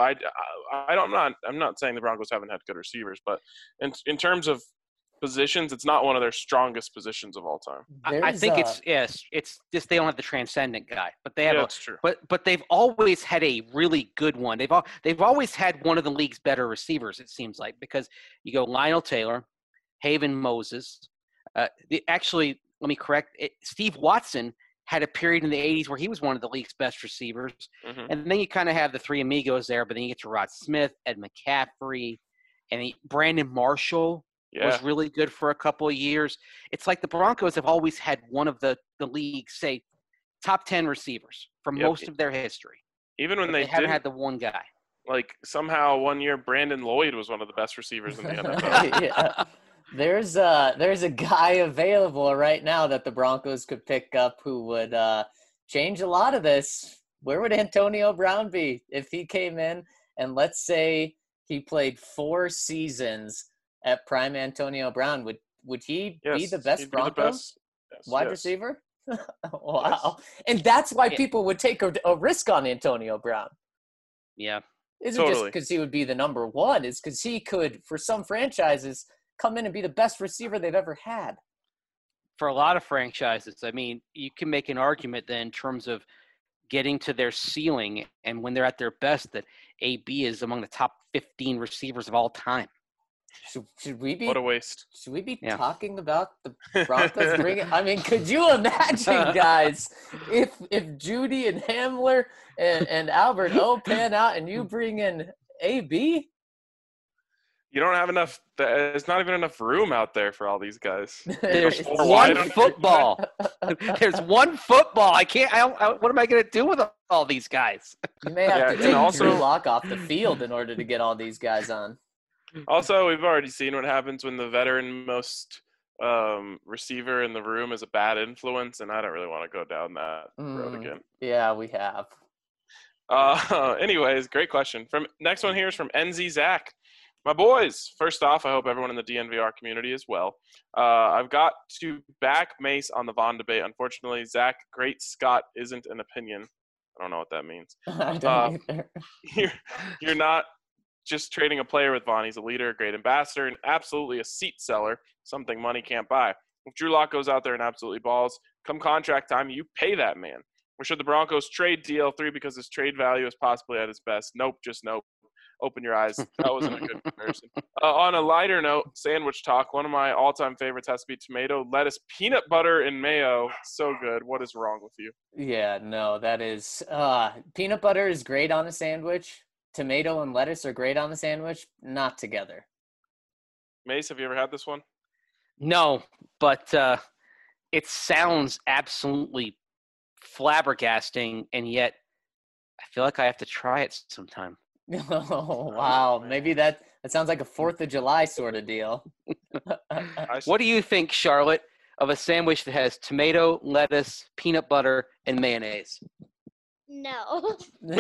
I'm not saying the Broncos haven't had good receivers, but in terms of positions, it's not one of their strongest positions of all time. I think it's just they don't have the transcendent guy, but they have. That's true. But they've always had a really good one. They've always had one of the league's better receivers. It seems like, because you go Lionel Taylor, Haven Moses. Actually, let me correct it. Steve Watson had a period in the 80s where he was one of the league's best receivers. Mm-hmm. And then you kind of have the three amigos there, but then you get to Rod Smith, Ed McCaffrey, and Brandon Marshall was really good for a couple of years. It's like the Broncos have always had one of the league's, say, top 10 receivers for most of their history. Even when they haven't had the one guy. Like somehow one year Brandon Lloyd was one of the best receivers in the NFL. Yeah. There's a guy available right now that the Broncos could pick up who would change a lot of this. Where would Antonio Brown be if he came in and let's say he played 4 seasons at prime Antonio Brown? Would he be the best Broncos wide receiver? Wow. Yes. And that's why people would take a risk on Antonio Brown. Yeah. Isn't just because he would be the number one. It's because he could, for some franchises, come in and be the best receiver they've ever had. For a lot of franchises, I mean, you can make an argument then in terms of getting to their ceiling and when they're at their best that AB is among the top 15 receivers of all time. Should we be? What a waste. Should we be talking about the Broncos bringing? I mean, could you imagine, guys, if Jeudy and Hamler and Albert O pan out and you bring in AB? You don't have enough. There's not even enough room out there for all these guys. There's Four one wide. football. There's one football. I can't. What am I going to do with all these guys? You may have Yeah, to and take also- Drew Lock off the field in order to get all these guys on. Also, we've already seen what happens when the veteran most receiver in the room is a bad influence, and I don't really want to go down that road again. Yeah, we have. Anyways, great question. Next one here is from NZ Zach. My boys, first off, I hope everyone in the DNVR community is well. I've got to back Mace on the Vaughn debate. Unfortunately, Zach, great Scott isn't an opinion. I don't know what that means. I don't either. You're not just trading a player with Vaughn. He's a leader, a great ambassador, and absolutely a seat seller, something money can't buy. If Drew Lock goes out there and absolutely balls, come contract time, you pay that man. Or should the Broncos trade DL3 because his trade value is possibly at his best? Nope, just nope. Open your eyes. That wasn't a good comparison. On a lighter note, sandwich talk. One of my all-time favorites has to be tomato, lettuce, peanut butter, and mayo. So good. What is wrong with you? Yeah, no, that is peanut butter is great on a sandwich. Tomato and lettuce are great on a sandwich, not together. Mace, have you ever had this one? No, but it sounds absolutely flabbergasting, and yet I feel like I have to try it sometime. Oh, wow. Maybe that sounds like a 4th of July sort of deal. What do you think, Charlotte, of a sandwich that has tomato, lettuce, peanut butter, and mayonnaise? No.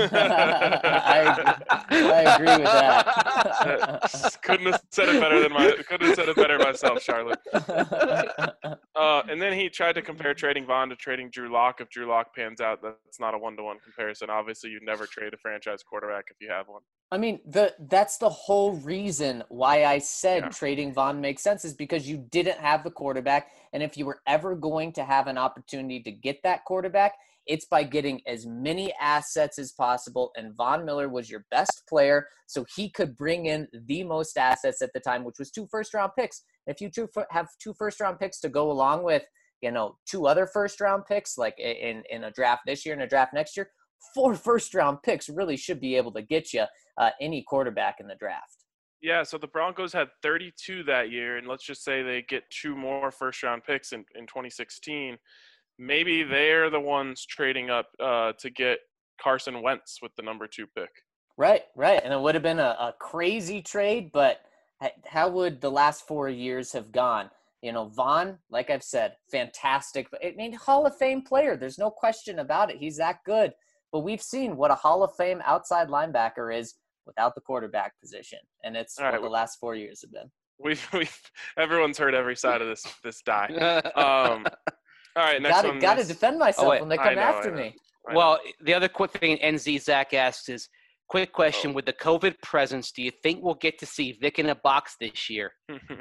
I agree with that. Couldn't have said it better myself, Charlotte. And then he tried to compare trading Vaughn to trading Drew Lock. If Drew Lock pans out, that's not a one-to-one comparison. Obviously, you'd never trade a franchise quarterback if you have one. I mean, that's the whole reason why I said trading Vaughn makes sense is because you didn't have the quarterback. And if you were ever going to have an opportunity to get that quarterback, it's by getting as many assets as possible. And Von Miller was your best player, so he could bring in the most assets at the time, which was 2 first-round picks. If you have 2 first-round picks to go along with, 2 other first-round picks, like in a draft this year and a draft next year, 4 first-round picks really should be able to get you any quarterback in the draft. Yeah, so the Broncos had 32 that year, and let's just say they get 2 more first-round picks in 2016. Maybe they're the ones trading up to get Carson Wentz with the number 2 pick. Right. And it would have been a crazy trade, but how would the last 4 years have gone? Vaughn, like I've said, fantastic. I mean, Hall of Fame player. There's no question about it. He's that good. But we've seen what a Hall of Fame outside linebacker is without the quarterback position. And it's what the last 4 years have been. Everyone's heard every side of this die. All right, next one. Got to defend myself when they come after me. Well, the other quick thing NZ Zach asks is, quick question, with the COVID presence, do you think we'll get to see Vic in a box this year?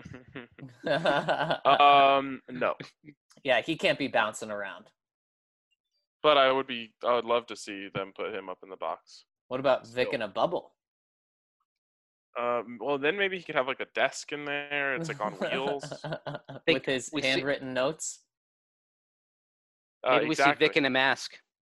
No. Yeah, he can't be bouncing around. But I would love to see them put him up in the box. What about Vic in a bubble? Well, then maybe he could have like a desk in there. It's like on wheels. With his handwritten notes. Maybe we see Vic in a mask.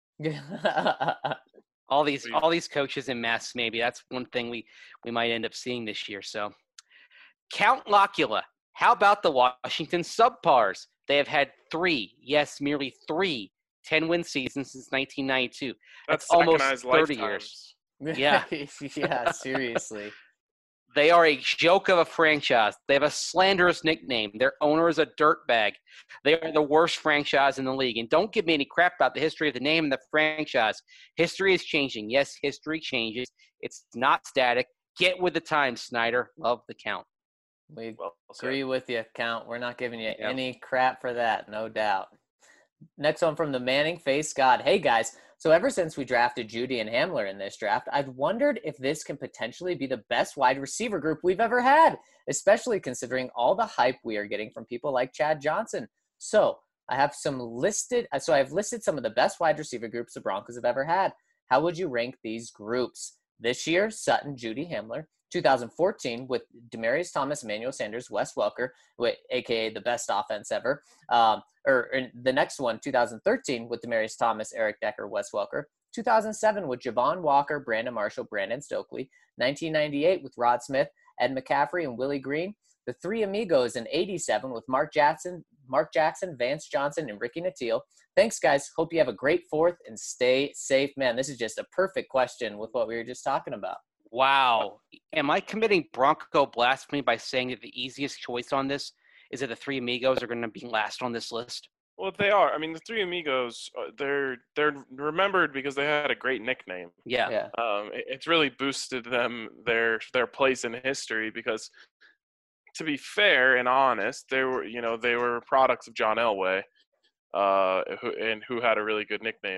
all these coaches in masks. Maybe that's one thing we might end up seeing this year. So, Count Locula. How about the Washington Subpars? They have had 3, merely 3 10-win seasons since 1992. That's almost 30 years. Yeah. Yeah, seriously. They are a joke of a franchise. They have a slanderous nickname. Their owner is a dirtbag. They are the worst franchise in the league. And don't give me any crap about the history of the name and the franchise. History is changing. Yes, history changes. It's not static. Get with the times, Snyder. Love the Count. We agree with you, Count. We're not giving you any crap for that, no doubt. Next one from the Manning Face God. Hey, guys. So ever since we drafted Judy and Hamler in this draft, I've wondered if this can potentially be the best wide receiver group we've ever had, especially considering all the hype we are getting from people like Chad Johnson. So I've listed some of the best wide receiver groups the Broncos have ever had. How would you rank these groups? This year, Sutton, Judy, Hamler. 2014 with Demaryius Thomas, Emmanuel Sanders, Wes Welker, a.k.a. the best offense ever. Or the next one, 2013 with Demaryius Thomas, Eric Decker, Wes Welker. 2007 with Javon Walker, Brandon Marshall, Brandon Stokely. 1998 with Rod Smith, Ed McCaffrey, and Willie Green. The Three Amigos in 87 with Mark Jackson, Vance Johnson, and Ricky Nattiel. Thanks, guys. Hope you have a great 4th and stay safe. Man, this is just a perfect question with what we were just talking about. Wow. Am I committing Bronco blasphemy by saying that the easiest choice on this is that the Three Amigos are going to be last on this list? Well, they are. I mean, the Three Amigos, they're remembered because they had a great nickname. Yeah. It's really boosted them their place in history because, to be fair and honest, they were products of John Elway, who had a really good nickname.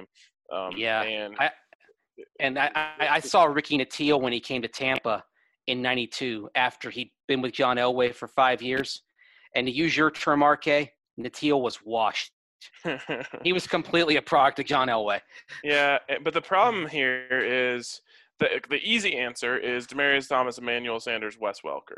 I saw Ricky Nattiel when he came to Tampa in '92 after he'd been with John Elway for 5 years. And to use your term, RK, Nattiel was washed. He was completely a product of John Elway. Yeah, but the problem here is the easy answer is Demaryius Thomas, Emmanuel Sanders, Wes Welker.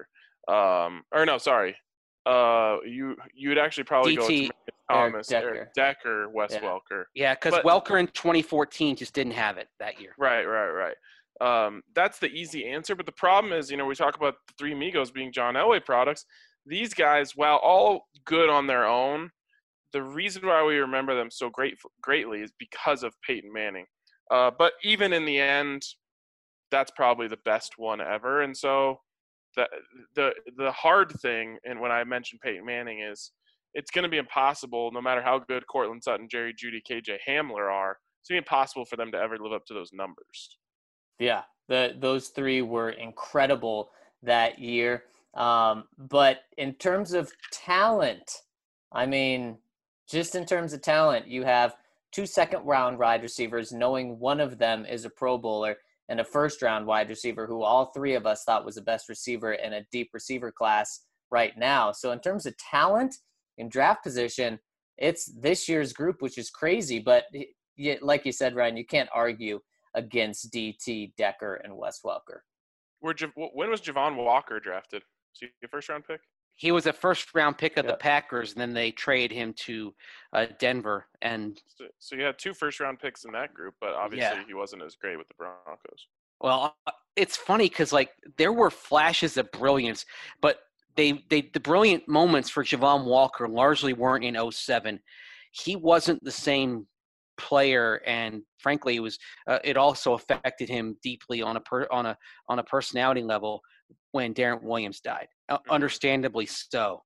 You'd actually probably go with Thomas, Eric Decker, Wes Welker. Yeah, because Welker in 2014 just didn't have it that year. Right. That's the easy answer. But the problem is, we talk about the Three Amigos being John Elway products. These guys, while all good on their own, the reason why we remember them so greatly is because of Peyton Manning. But even in the end, that's probably the best one ever. And so the hard thing, and when I mentioned Peyton Manning, is it's going to be impossible, no matter how good Cortland Sutton, Jerry Jeudy, KJ Hamler are, it's going to be impossible for them to ever live up to those numbers. Yeah, those three were incredible that year. But in terms of talent, I mean, just in terms of talent, you have 2 second-round wide receivers, knowing one of them is a Pro Bowler, and a first-round wide receiver who all three of us thought was the best receiver in a deep receiver class right now. So in terms of talent in draft position, it's this year's group, which is crazy. But like you said, Ryan, you can't argue against DT, Decker, and Wes Welker. When was Javon Walker drafted? Was he a first-round pick? He was a first-round pick of the Packers, and then they traded him to Denver. And so you had 2 first-round picks in that group, but obviously he wasn't as great with the Broncos. Well, it's funny because there were flashes of brilliance, but the brilliant moments for Javon Walker largely weren't in 2007. He wasn't the same player, and frankly, it also affected him deeply on a personality level when Darren Williams died. Understandably so.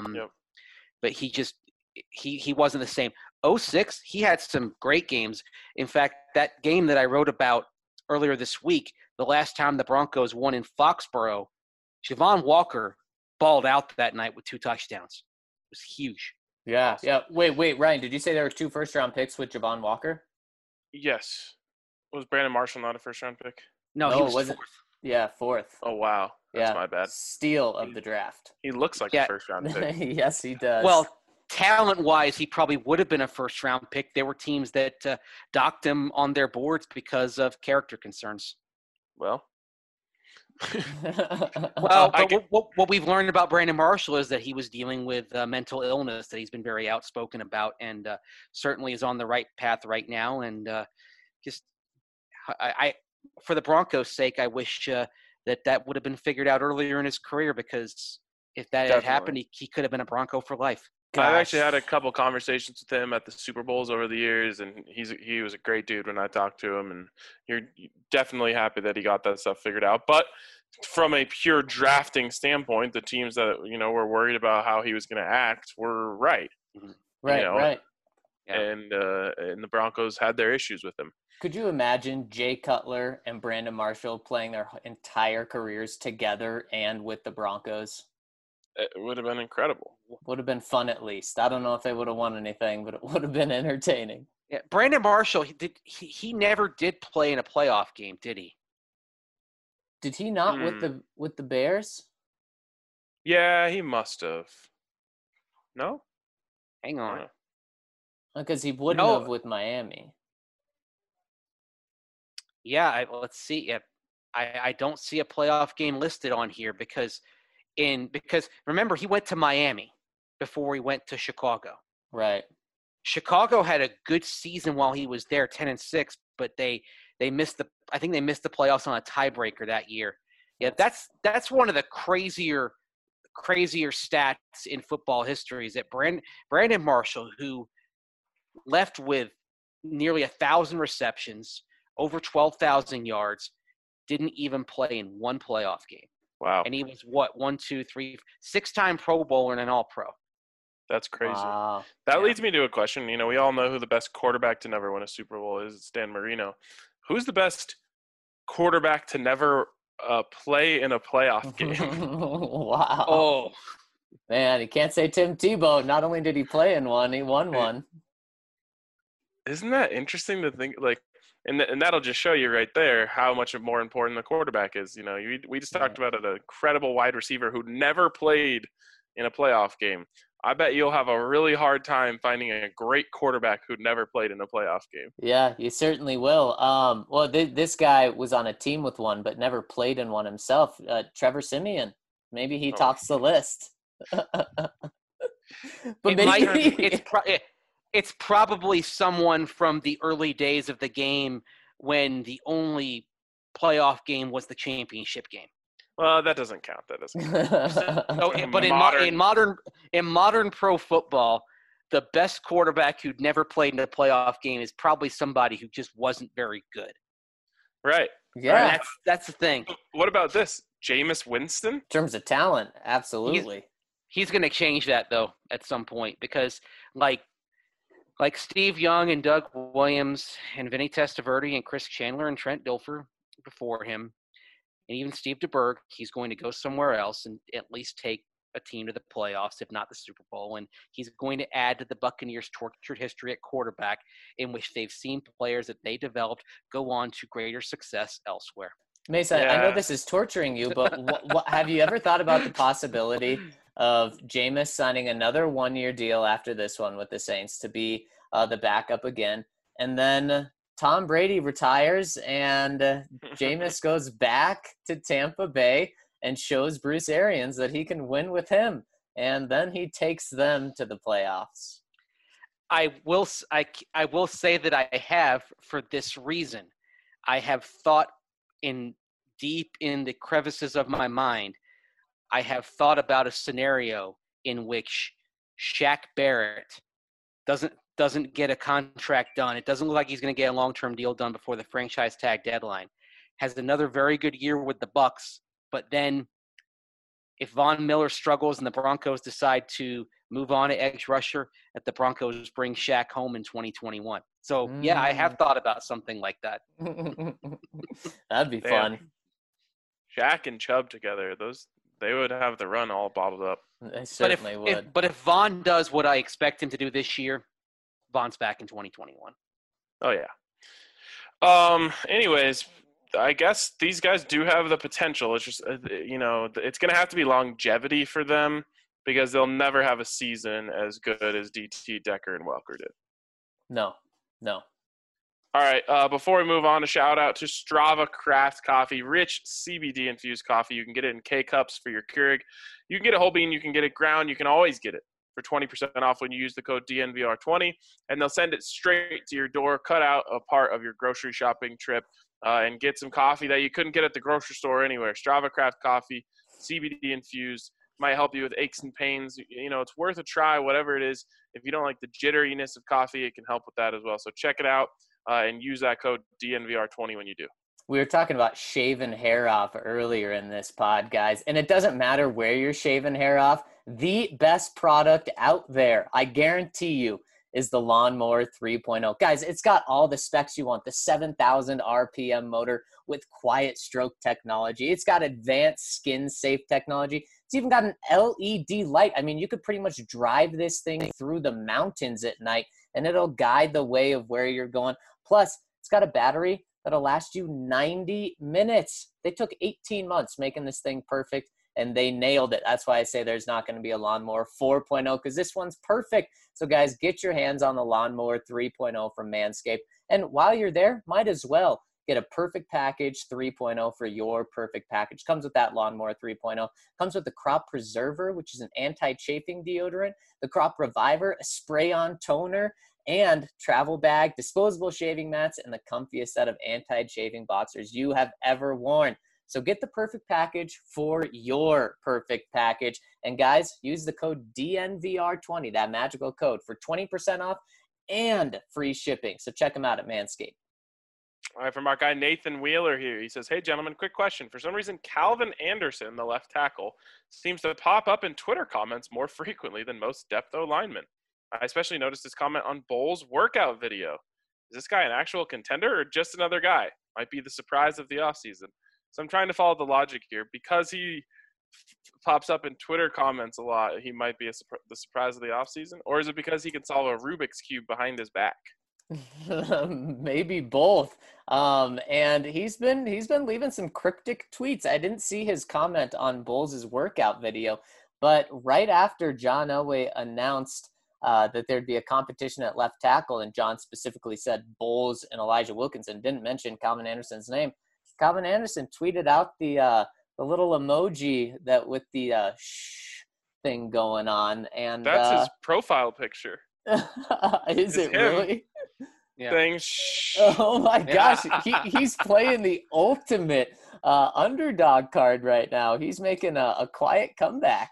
But he wasn't the same. 2006, he had some great games. In fact, that game that I wrote about earlier this week, the last time the Broncos won in Foxborough, Javon Walker balled out that night with 2 touchdowns. It was huge. Yeah, awesome. Yeah. Wait, Ryan, did you say there were 2 first-round picks with Javon Walker? Yes. Was Brandon Marshall not a first-round pick? No, he was 4th. Yeah, 4th. Oh, wow. That's my bad. Steal of the draft. He looks like a first-round pick. Yes, he does. Well, talent-wise, he probably would have been a first-round pick. There were teams that docked him on their boards because of character concerns. Well, what we've learned about Brandon Marshall is that he was dealing with mental illness that he's been very outspoken about, and certainly is on the right path right now. And I for the Broncos' sake, I wish that would have been figured out earlier in his career, because if that had happened, he could have been a Bronco for life. Gosh. I've actually had a couple conversations with him at the Super Bowls over the years, and he was a great dude when I talked to him, and you're definitely happy that he got that stuff figured out. But from a pure drafting standpoint, the teams that were worried about how he was going to act were right. Right. Yeah. And the Broncos had their issues with him. Could you imagine Jay Cutler and Brandon Marshall playing their entire careers together and with the Broncos? It would have been incredible. Would have been fun, at least. I don't know if they would have won anything, but it would have been entertaining. Yeah, Brandon Marshall, he never did play in a playoff game, did he? Did he not with the Bears? Yeah, he must have. No? Hang on. Because he wouldn't have with Miami. Yeah, let's see. Yeah, I don't see a playoff game listed on here because remember, he went to Miami before he went to Chicago. Right. Chicago had a good season while he was there, 10-6, but they missed the playoffs on a tiebreaker that year. Yeah, that's one of the crazier stats in football history is that Brandon Marshall, who left with nearly 1,000 receptions, over 12,000 yards, didn't even play in one playoff game. Wow. And he was six-time Pro Bowler and an All-Pro. That's crazy. Wow. That leads me to a question. We all know who the best quarterback to never win a Super Bowl is. It's Dan Marino. Who's the best quarterback to never play in a playoff game? Wow. Oh, man, you can't say Tim Tebow. Not only did he play in one, he won one. Isn't that interesting to think? And that'll just show you right there how much more important the quarterback is. We just talked about an incredible wide receiver who never played in a playoff game. I bet you'll have a really hard time finding a great quarterback who never played in a playoff game. Yeah, you certainly will. Well, this guy was on a team with one, but never played in one himself. Trevor Siemian. Maybe he tops the list. But it's probably someone from the early days of the game when the only playoff game was the championship game. Well, that doesn't count. But in modern pro football, the best quarterback who'd never played in a playoff game is probably somebody who just wasn't very good. Right. Yeah. That's the thing. What about this? Jameis Winston? In terms of talent, absolutely. He's going to change that, though, at some point because, like Steve Young and Doug Williams and Vinny Testaverde and Chris Chandler and Trent Dilfer before him, and even Steve DeBerg, he's going to go somewhere else and at least take a team to the playoffs, if not the Super Bowl. And he's going to add to the Buccaneers' tortured history at quarterback, in which they've seen players that they developed go on to greater success elsewhere. Mesa, I know this is torturing you, but what have you ever thought about the possibility of Jameis signing another one-year deal after this one with the Saints to be the backup again, and then Tom Brady retires and Jameis goes back to Tampa Bay and shows Bruce Arians that he can win with him, and then he takes them to the playoffs? I will say that I have, for this reason. I have thought deep in the crevices of my mind, I have thought about a scenario in which Shaq Barrett doesn't get a contract done. It doesn't look like he's going to get a long-term deal done before the franchise tag deadline. Has another very good year with the Bucs, but then if Von Miller struggles and the Broncos decide to move on to edge rusher, that the Broncos bring Shaq home in 2021. So, yeah, I have thought about something like that. That'd be fun. Shaq and Chubb together, they would have the run all bottled up. They certainly would. But if Von does what I expect him to do this year, Von's back in 2021. Oh, yeah. Anyways, I guess these guys do have the potential. It's just, it's going to have to be longevity for them because they'll never have a season as good as DT, Decker, and Welker did. No. All right, before we move on, a shout-out to Strava Craft Coffee, rich CBD-infused coffee. You can get it in K-Cups for your Keurig. You can get it whole bean. You can get it ground. You can always get it for 20% off when you use the code DNVR20, and they'll send it straight to your door. Cut out a part of your grocery shopping trip and get some coffee that you couldn't get at the grocery store anywhere. Strava Craft Coffee, CBD-infused, might help you with aches and pains. It's worth a try, whatever it is. If you don't like the jitteriness of coffee, it can help with that as well. So check it out. And use that code DNVR20 when you do. We were talking about shaving hair off earlier in this pod, guys, and it doesn't matter where you're shaving hair off. The best product out there, I guarantee you, is the Lawnmower 3.0. Guys, it's got all the specs you want. The 7,000 RPM motor with quiet stroke technology. It's got advanced skin-safe technology. It's even got an LED light. I mean, you could pretty much drive this thing through the mountains at night, and it'll guide the way of where you're going. Plus, it's got a battery that'll last you 90 minutes. They took 18 months making this thing perfect, and they nailed it. That's why I say there's not going to be a Lawnmower 4.0 because this one's perfect. So, guys, get your hands on the Lawnmower 3.0 from Manscaped. And while you're there, might as well get a Perfect Package 3.0 for your perfect package. Comes with that Lawnmower 3.0. Comes with the Crop Preserver, which is an anti-chafing deodorant, the Crop Reviver, a spray-on toner, and travel bag, disposable shaving mats, and the comfiest set of anti-chafing boxers you have ever worn. So get the perfect package for your perfect package. And guys, use the code DNVR20, that magical code, for 20% off and free shipping. So check them out at Manscaped. All right, from our guy Nathan Wheeler here. He says, hey, gentlemen, quick question. For some reason, Calvin Anderson, the left tackle, seems to pop up in Twitter comments more frequently than most depth O-linemen. I especially noticed his comment on Bowles' workout video. Is this guy an actual contender or just another guy? Might be the surprise of the offseason. So I'm trying to follow the logic here. Because he pops up in Twitter comments a lot, he might be the surprise of the offseason? Or is it because he can solve a Rubik's Cube behind his back? Maybe both. And he's been leaving some cryptic tweets. I didn't see his comment on Bowles' workout video, but right after John Elway announced that there'd be a competition at left tackle, and John specifically said Bowles and Elijah Wilkinson, didn't mention Calvin Anderson's name. Calvin Anderson tweeted out the little emoji that with the shh thing going on, and that's his profile picture. Is it him. really? Yeah. Saying shh. Oh my gosh, he's playing the ultimate underdog card right now. He's making a quiet comeback.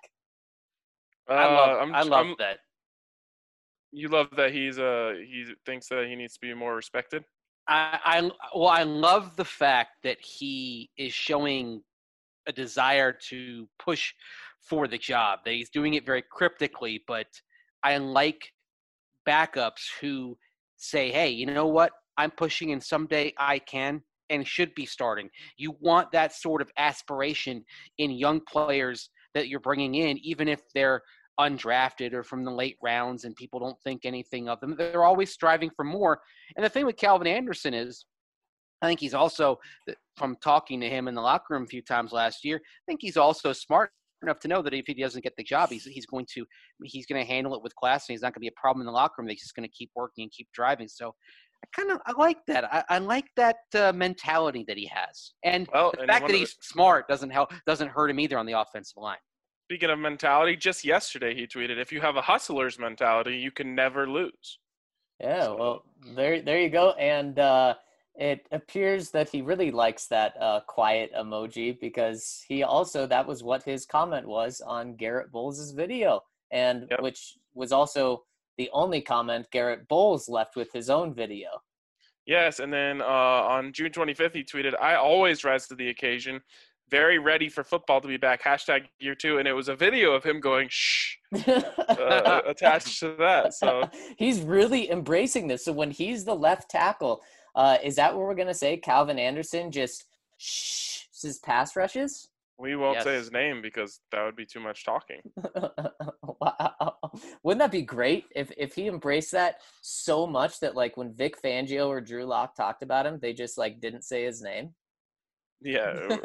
I love that. You love that he thinks that he needs to be more respected? I love the fact that he is showing a desire to push for the job, that he's doing it very cryptically, but I like backups who say, hey, you know what? I'm pushing and someday I can and should be starting. You want that sort of aspiration in young players that you're bringing in, even if they're undrafted or from the late rounds and people don't think anything of them. They're always striving for more. And the thing with Calvin Anderson is, I think he's also, from talking to him in the locker room a few times last year, I think he's also smart enough to know that if he doesn't get the job, he's going to handle it with class, and he's not going to be a problem in the locker room. He's just going to keep working and keep driving. So I like that. I like that mentality that he has, and the fact that he's smart doesn't hurt him either on the offensive line. Speaking of mentality, just yesterday he tweeted, if you have a hustler's mentality, you can never lose. Yeah, well, there you go. And it appears that he really likes that quiet emoji, because that was what his comment was on Garrett Bowles' video, and which was also the only comment Garrett Bowles left with his own video. Yes, and then on June 25th, he tweeted, I always rise to the occasion. Very ready for football to be back, #year 2. And it was a video of him going, shh, attached to that. So he's really embracing this. So when he's the left tackle, is that what we're going to say? Calvin Anderson just shh his pass rushes? We won't say his name because that would be too much talking. Wow. Wouldn't that be great if he embraced that so much that, like, when Vic Fangio or Drew Lock talked about him, they just, like, didn't say his name? Yeah.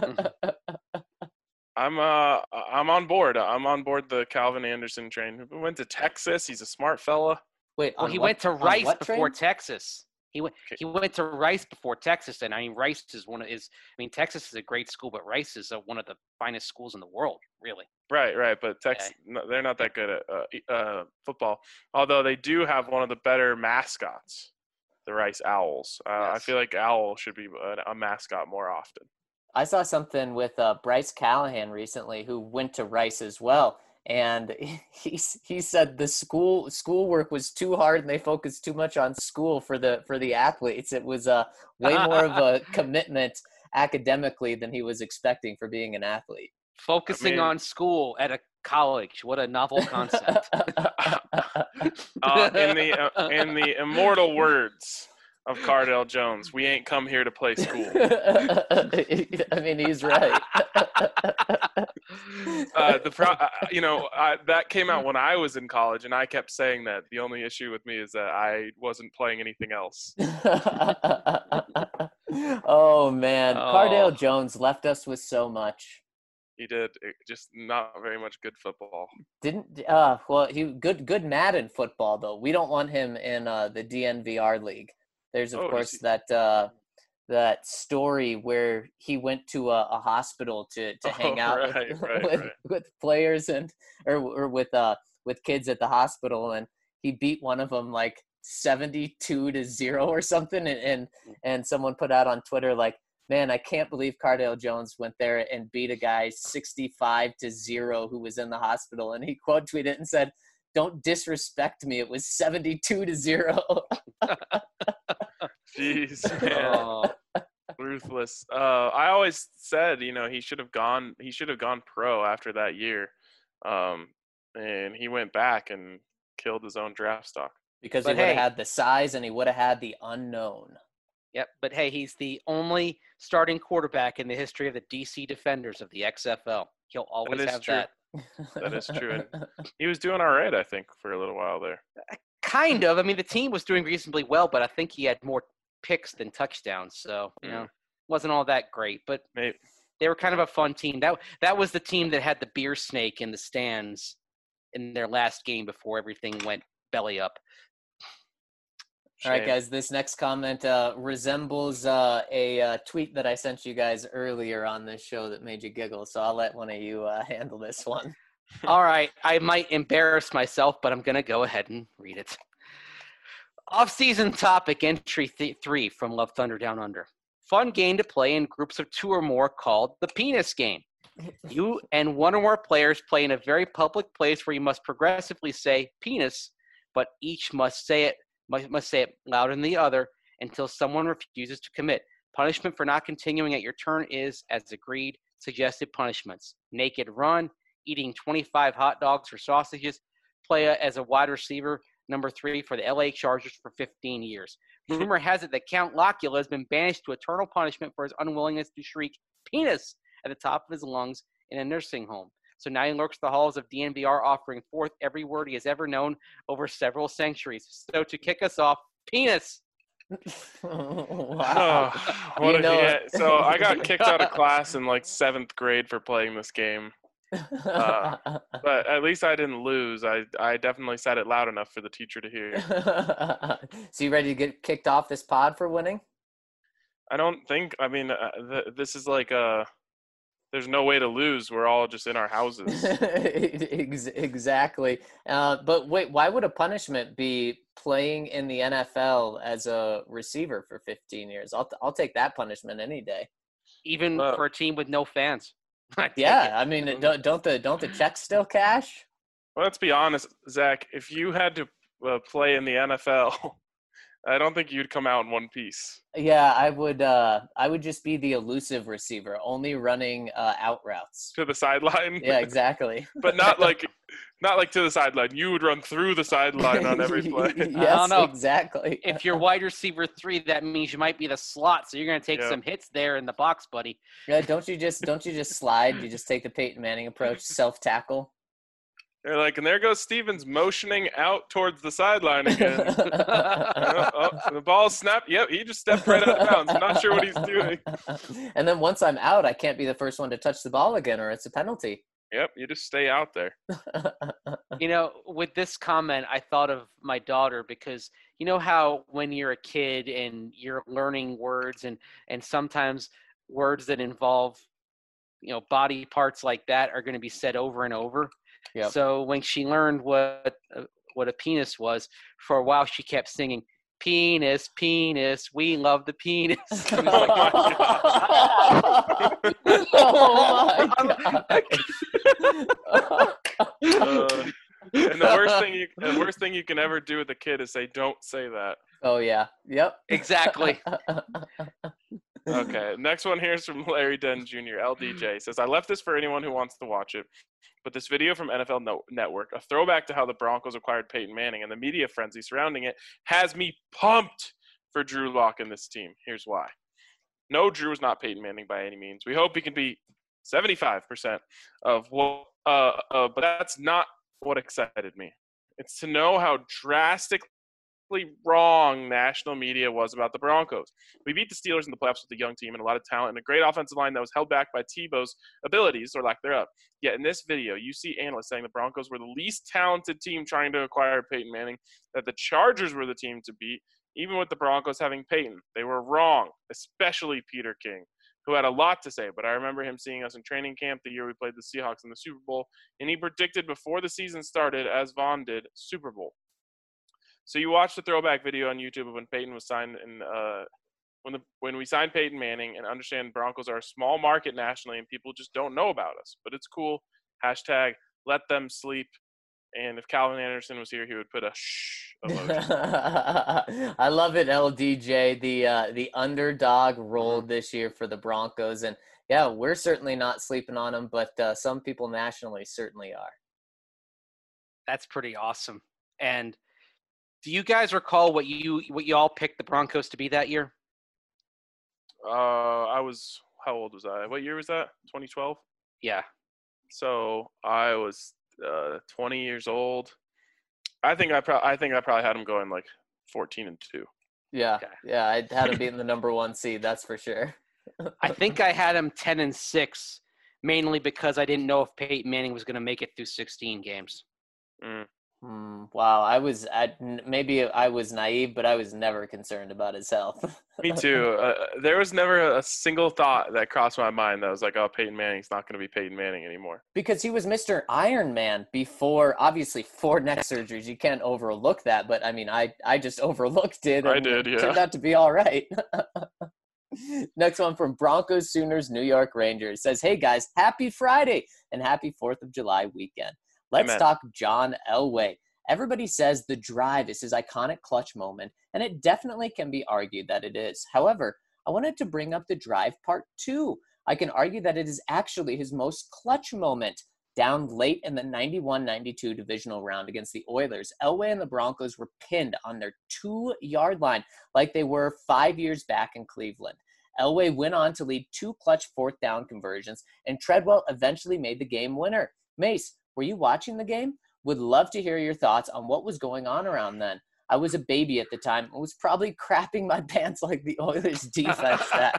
I'm on board. I'm on board the Calvin Anderson train. He went to Texas. He's a smart fella. Wait, he went to Rice before Texas. He went to Rice before Texas, and I mean Rice is Texas is a great school, but Rice is one of the finest schools in the world, really. Right. But Texas, they're not that good at football. Although they do have one of the better mascots, the Rice Owls. I feel like Owl should be a mascot more often. I saw something with Bryce Callahan recently, who went to Rice as well. And he said the schoolwork was too hard and they focused too much on school for the athletes. It was way more of a commitment academically than he was expecting for being an athlete. Focusing on school at a college. What a novel concept. In the immortal words of Cardale Jones, we ain't come here to play school. I mean, he's right. That came out when I was in college, and I kept saying that. The only issue with me is that I wasn't playing anything else. Oh man, Cardale Jones left us with so much. He did, just not very much good football. He good Madden football though. We don't want him in the DNVR league. There's of course that story where he went to a hospital to hang out with players or with kids at the hospital, and he beat one of them like 72-0 or something, and someone put out on Twitter like, Man, I can't believe Cardale Jones went there and beat a guy 65-0 who was in the hospital. And he quote tweeted and said, "Don't disrespect me. It was 72-0." Jeez, man. Oh, Ruthless. I always said, he should have gone pro after that year. And he went back and killed his own draft stock. Because But he would have hey- had the size and he would have had the unknown. yep. But hey, he's the only starting quarterback in the history of the DC Defenders of the XFL. He'll always is have true. that. That is true. And he was doing all right, I think, for a little while there. Kind of. I mean, the team was doing reasonably well, but I think he had more picks than touchdowns. So, wasn't all that great. But Maybe. they were kind of a fun team. That was the team that had the beer snake in the stands in their last game before everything went belly up. All right, Shame. guys, this next comment resembles a tweet that I sent you guys earlier on this show that made you giggle. So I'll let one of you handle this one. All right. I might embarrass myself, but I'm going to go ahead and read it. Off-season topic entry 3 from Love Thunder Down Under. Fun game to play in groups of 2 or more called the penis game. You and one or more players play in a very public place where you must progressively say penis, but each must say it louder than the other until someone refuses to commit. Punishment for not continuing at your turn is, as agreed, suggested punishments: naked run, eating 25 hot dogs or sausages, play as a wide receiver, number 3 for the LA Chargers for 15 years. Rumor has it that Count Locula has been banished to eternal punishment for his unwillingness to shriek penis at the top of his lungs in a nursing home. So now he lurks the halls of DNVR, offering forth every word he has ever known over several centuries. So to kick us off, penis. Wow. What You know- So I got kicked out of class in like 7th grade for playing this game. But at least I didn't lose. I definitely said it loud enough for the teacher to hear. So you ready to get kicked off this pod for winning? I don't think. I mean, this is like there's no way to lose. We're all just in our houses. Exactly. But wait, why would a punishment be playing in the NFL as a receiver for 15 years? I'll take that punishment any day. Even Well- for a team with no fans. I take Yeah, it. I mean, don't the checks still cash? Well, let's be honest, Zach. If you had to play in the NFL, I don't think you'd come out in one piece. Yeah, I would just be the elusive receiver, only running out routes. To the sideline. Yeah, exactly. But not like to the sideline. You would run through the sideline on every play. Yes, know. exactly. If you're wide receiver 3, that means you might be the slot, so you're going to take Yeah. some hits there in the box, buddy. Yeah, don't you just slide? You just take the Peyton Manning approach, self tackle. They're like, and there goes Stevens motioning out towards the sideline again. The ball snapped. Yep, he just stepped right out of bounds. I'm not sure what he's doing. And then once I'm out, I can't be the first one to touch the ball again, or it's a penalty. Yep, you just stay out there. You know, with this comment, I thought of my daughter because you know how when you're a kid and you're learning words and sometimes words that involve, body parts like that are going to be said over and over. Yep. So when she learned what a penis was, for a while she kept singing, "Penis, penis, we love the penis." I was like, Oh my god. And the worst thing you can ever do with a kid is say, "Don't say that." Oh yeah. Yep. exactly. Okay, next one here is from Larry Dunn Jr. LDJ says, "I left this for anyone who wants to watch it, but this video from NFL Network, a throwback to how the Broncos acquired Peyton Manning and the media frenzy surrounding it, has me pumped for Drew Lock and this team. Here's why. No, Drew is not Peyton Manning by any means. We hope he can be 75% of what, but that's not what excited me. It's to know how drastically wrong national media was about the Broncos. We beat the Steelers in the playoffs with a young team and a lot of talent and a great offensive line that was held back by Tebow's abilities or lack thereof. Yet in this video, you see analysts saying the Broncos were the least talented team trying to acquire Peyton Manning, that the Chargers were the team to beat, even with the Broncos having Peyton. They were wrong, especially Peter King, who had a lot to say, but I remember him seeing us in training camp the year we played the Seahawks in the Super Bowl, and he predicted before the season started, as Vaughn did, Super Bowl. So you watched the throwback video on YouTube of when Peyton was signed in when we signed Peyton Manning, and understand Broncos are a small market nationally and people just don't know about us. But it's cool. Hashtag let them sleep. And if Calvin Anderson was here, he would put a shh emoji. I love it, LDJ. The underdog rolled this year for the Broncos, and yeah, we're certainly not sleeping on them, but some people nationally certainly are. That's pretty awesome. And do you guys recall what you all picked the Broncos to be that year? How old was I? What year was that? 2012? Yeah. So I was 20 years old. I think I probably had them going like 14-2. Yeah, Okay. yeah, I had them being the number 1 seed, that's for sure. I think I had them 10-6, mainly because I didn't know if Peyton Manning was going to make it through 16 games. Wow, maybe I was naive, but I was never concerned about his health. Me too. There was never a single thought that crossed my mind that was like, oh, Peyton Manning's not going to be Peyton Manning anymore. Because he was Mr. Iron Man before, obviously, 4 neck surgeries. You can't overlook that, but I mean, I just overlooked it. I did, yeah. It turned out to be all right. Next one from Broncos, Sooners, New York Rangers. Says, hey guys, happy Friday and happy 4th of July weekend. Let's Amen. talk John Elway. Everybody says the drive is his iconic clutch moment, and it definitely can be argued that it is. However, I wanted to bring up the drive part 2. I can argue that it is actually his most clutch moment. Down late in the 91-92 divisional round against the Oilers, Elway and the Broncos were pinned on their 2-yard line like they were 5 years back in Cleveland. Elway went on to lead 2 clutch 4th down conversions, and Treadwell eventually made the game winner. Mace, were you watching the game? Would love to hear your thoughts on what was going on around then. I was a baby at the time and was probably crapping my pants like the Oilers defense that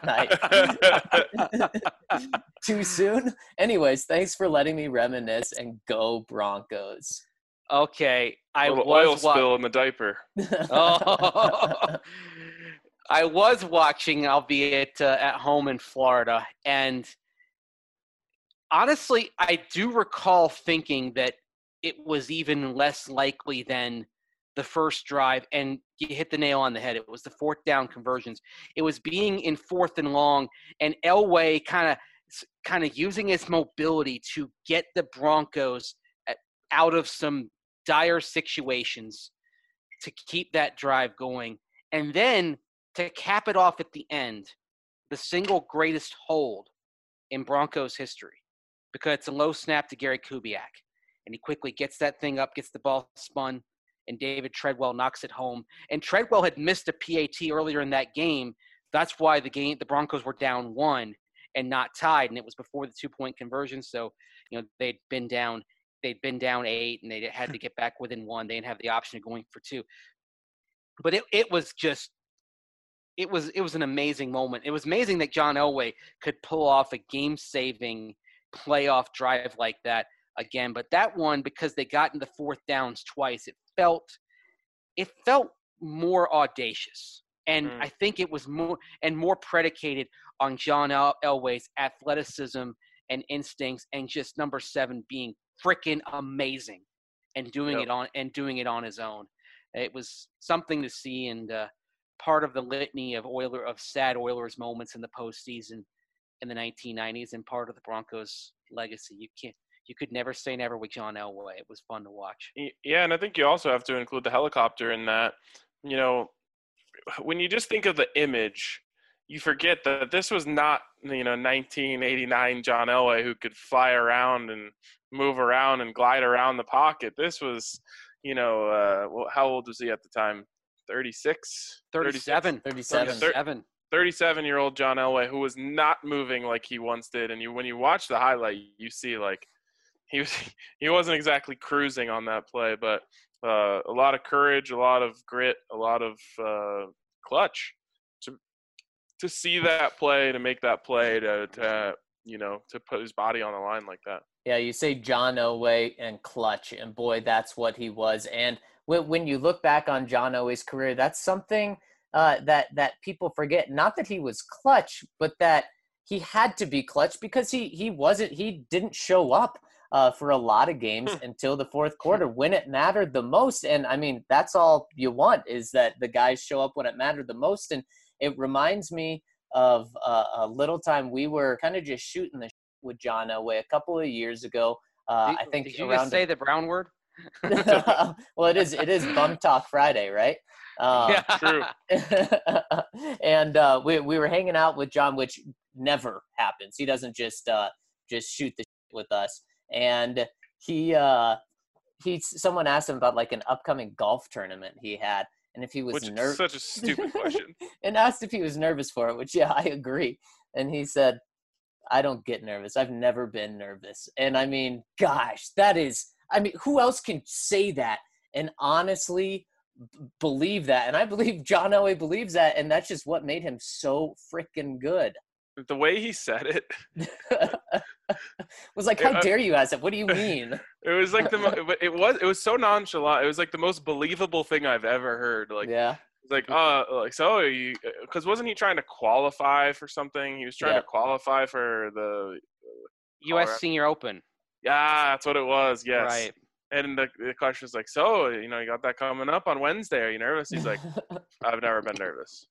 night. Too soon? Anyways, thanks for letting me reminisce, and go Broncos. Okay. Oil spill in the diaper. Oh. I was watching, albeit at home in Florida, and honestly, I do recall thinking that it was even less likely than the first drive, and you hit the nail on the head. It was the 4th down conversions. It was being in 4th and long, and Elway kind of using his mobility to get the Broncos out of some dire situations to keep that drive going. And then to cap it off at the end, the single greatest hold in Broncos history, because it's a low snap to Gary Kubiak. And he quickly gets that thing up, gets the ball spun, and David Treadwell knocks it home. And Treadwell had missed a PAT earlier in that game. That's why the Broncos were down 1 and not tied, and it was before the 2-point conversion. So, they'd been down 8, and they had to get back within 1. They didn't have the option of going for 2. But it was an amazing moment. It was amazing that John Elway could pull off a game-saving playoff drive like that again. But that one, because they got into 4th downs twice, it felt more audacious. And I think it was more predicated on John Elway's athleticism and instincts, and just number 7 being freaking amazing and doing it on his own. It was something to see, and part of the litany of sad Oilers moments in the postseason in the 1990s, and part of the Broncos legacy. You could never say never with John Elway. It was fun to watch. Yeah, and I think you also have to include the helicopter in that. When you just think of the image, you forget that this was not 1989 John Elway who could fly around and move around and glide around the pocket. This was, how old was he at the time? 36? 37. 37-year-old John Elway, who was not moving like he once did. And when you watch the highlight, you see like he wasn't exactly cruising on that play, but a lot of courage, a lot of grit, a lot of clutch to see that play, to make that play, to put his body on the line like that. Yeah, you say John Elway and clutch, and boy, that's what he was. And when you look back on John Elway's career, that's something that people forget. Not that he was clutch, but that he had to be clutch, because he didn't show up for a lot of games until the 4th quarter when it mattered the most. And I mean, that's all you want, is that the guys show up when it mattered the most. And It reminds me of a little time we were kind of just shooting the with John Elway a couple of years ago. I think did you around just say the brown word? well, it is Bum Talk Friday, right? True. And we were hanging out with John, which never happens. He doesn't just shoot the shit with us. And someone asked him about like an upcoming golf tournament he had, and if he was Which is nervous. such a stupid question. And asked if he was nervous for it, which yeah, I agree. And he said, "I don't get nervous. I've never been nervous." And I mean, gosh, who else can say that and honestly believe that? And I believe John Elway believes that, and that's just what made him so freaking good. The way he said it was like, how dare you ask it? What do you mean? It was like it was so nonchalant. It was like the most believable thing I've ever heard. Like, yeah. It's like, so you, because wasn't he trying to qualify for something? He was trying to qualify for the U.S. Senior Open. Yeah, that's what it was. Yes. Right. And the question was like, so, you got that coming up on Wednesday. Are you nervous? He's like, I've never been nervous.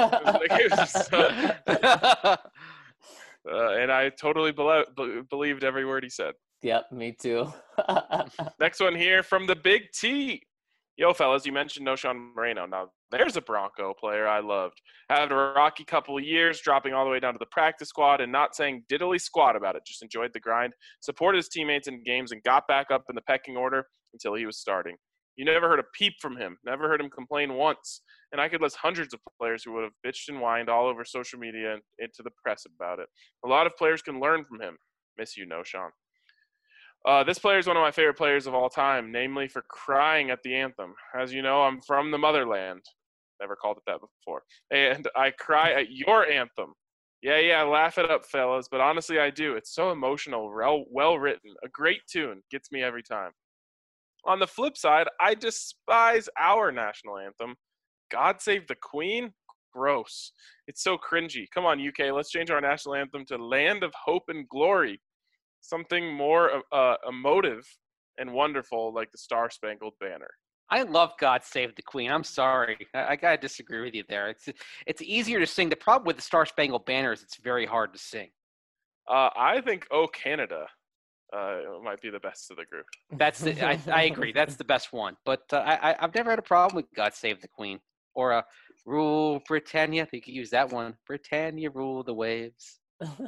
And I totally believed every word he said. Yep, me too. Next one here from the Big T. Yo, fellas, you mentioned Noshawn Moreno. Now, there's a Bronco player I loved. Had a rocky couple of years, dropping all the way down to the practice squad and not saying diddly squat about it. Just enjoyed the grind, supported his teammates in games, and got back up in the pecking order until he was starting. You never heard a peep from him, never heard him complain once. And I could list hundreds of players who would have bitched and whined all over social media and into the press about it. A lot of players can learn from him. Miss you, Noshawn. This player is one of my favorite players of all time, namely for crying at the anthem. As you know, I'm from the motherland. Never called it that before. And I cry at your anthem. Yeah, laugh it up, fellas. But honestly, I do. It's so emotional, well written. A great tune. Gets me every time. On the flip side, I despise our national anthem. God Save the Queen? Gross. It's so cringy. Come on, UK. Let's change our national anthem to Land of Hope and Glory. Something more emotive and wonderful like the Star Spangled Banner. I love God Save the Queen. I'm sorry. I got to disagree with you there. It's easier to sing. The problem with the Star Spangled Banner is it's very hard to sing. I think Oh Canada might be the best of the group. I agree. That's the best one. But I've never had a problem with God Save the Queen. Or Rule Britannia. You could use that one. Britannia, rule the waves.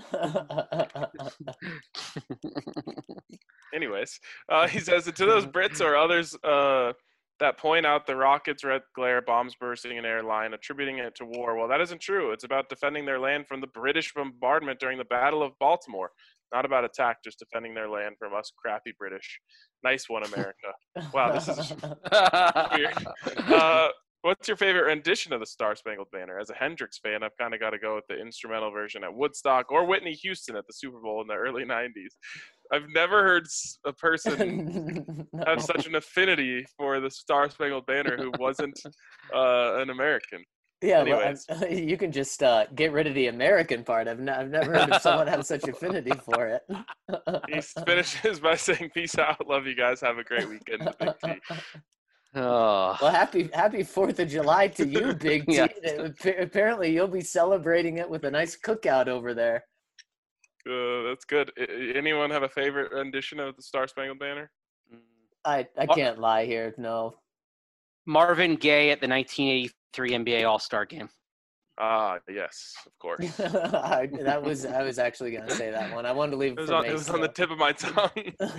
Anyways, he says to those Brits or others that point out the rockets, red glare, bombs bursting in airline, attributing it to war. Well, that isn't true. It's about defending their land from the British bombardment during the Battle of Baltimore. Not about attack, just defending their land from us crappy British. Nice one, America. Wow, this is weird. What's your favorite rendition of the Star Spangled Banner? As a Hendrix fan, I've kind of got to go with the instrumental version at Woodstock or Whitney Houston at the Super Bowl in the early 90s. I've never heard a person have such an affinity for the Star Spangled Banner who wasn't an American. Yeah, well, you can just get rid of the American part. I've never heard of someone have such affinity for it. He finishes by saying, "Peace out, love you guys, have a great weekend." The Big T. Oh. Well, happy 4th of July to you, Big T. Yeah. Apparently, you'll be celebrating it with a nice cookout over there. That's good. Anyone have a favorite rendition of the Star Spangled Banner? I can't lie here. No. Marvin Gaye at the 1983 NBA All-Star Game. Yes, of course. I was actually going to say that one. I wanted to leave it It was on the tip of my tongue.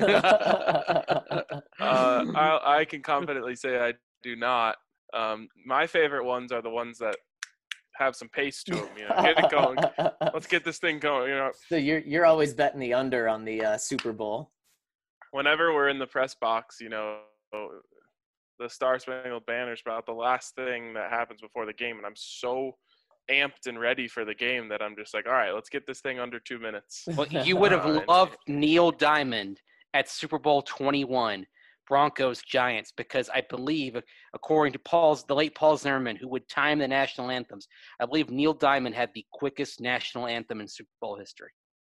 I can confidently say I do not. My favorite ones are the ones that have some pace to them. Get it going. Let's get this thing going. So you're always betting the under on the Super Bowl. Whenever we're in the press box, the Star Spangled Banner is about the last thing that happens before the game, and I'm so amped and ready for the game that I'm just like, all right, let's get this thing under 2 minutes. Well, you would have loved Neil Diamond at Super Bowl 21, Broncos Giants, because I believe, according to the late Paul Zimmerman, who would time the national anthems, I believe Neil Diamond had the quickest national anthem in Super Bowl history.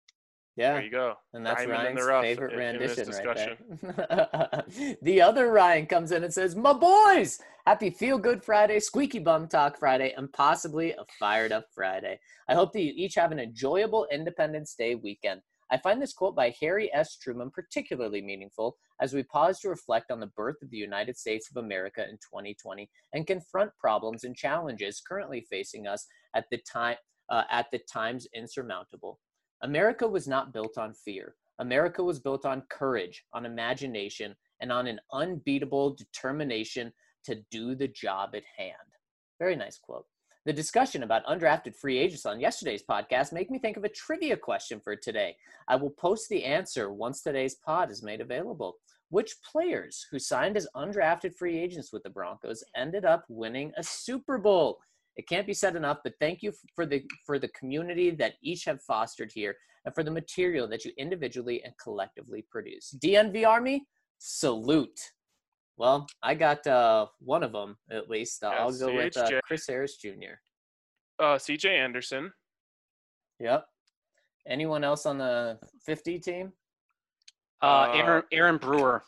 Yeah. There you go. And that's Diamond in the Ryan's rough favorite in this rendition right discussion. there. The other Ryan comes in and says, "My boys, happy Feel Good Friday, Squeaky Bum Talk Friday, and possibly a Fired Up Friday. I hope that you each have an enjoyable Independence Day weekend. I find this quote by Harry S. Truman particularly meaningful as we pause to reflect on the birth of the United States of America in 2020 and confront problems and challenges currently facing us at the times insurmountable. America was not built on fear. America was built on courage, on imagination, and on an unbeatable determination to do the job at hand." Very nice quote. The discussion about undrafted free agents on yesterday's podcast made me think of a trivia question for today. I will post the answer once today's pod is made available. Which players who signed as undrafted free agents with the Broncos ended up winning a Super Bowl? It can't be said enough, but thank you for the community that each have fostered here and for the material that you individually and collectively produce. DNV Army, salute. Well, I got one of them at least. I'll go with CHJ. Chris Harris Jr. CJ Anderson. Yep. Anyone else on the 50 team? Aaron Brewer,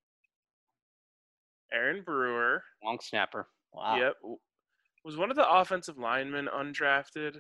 Aaron Brewer. long snapper. Wow. Yep. Was one of the offensive linemen undrafted?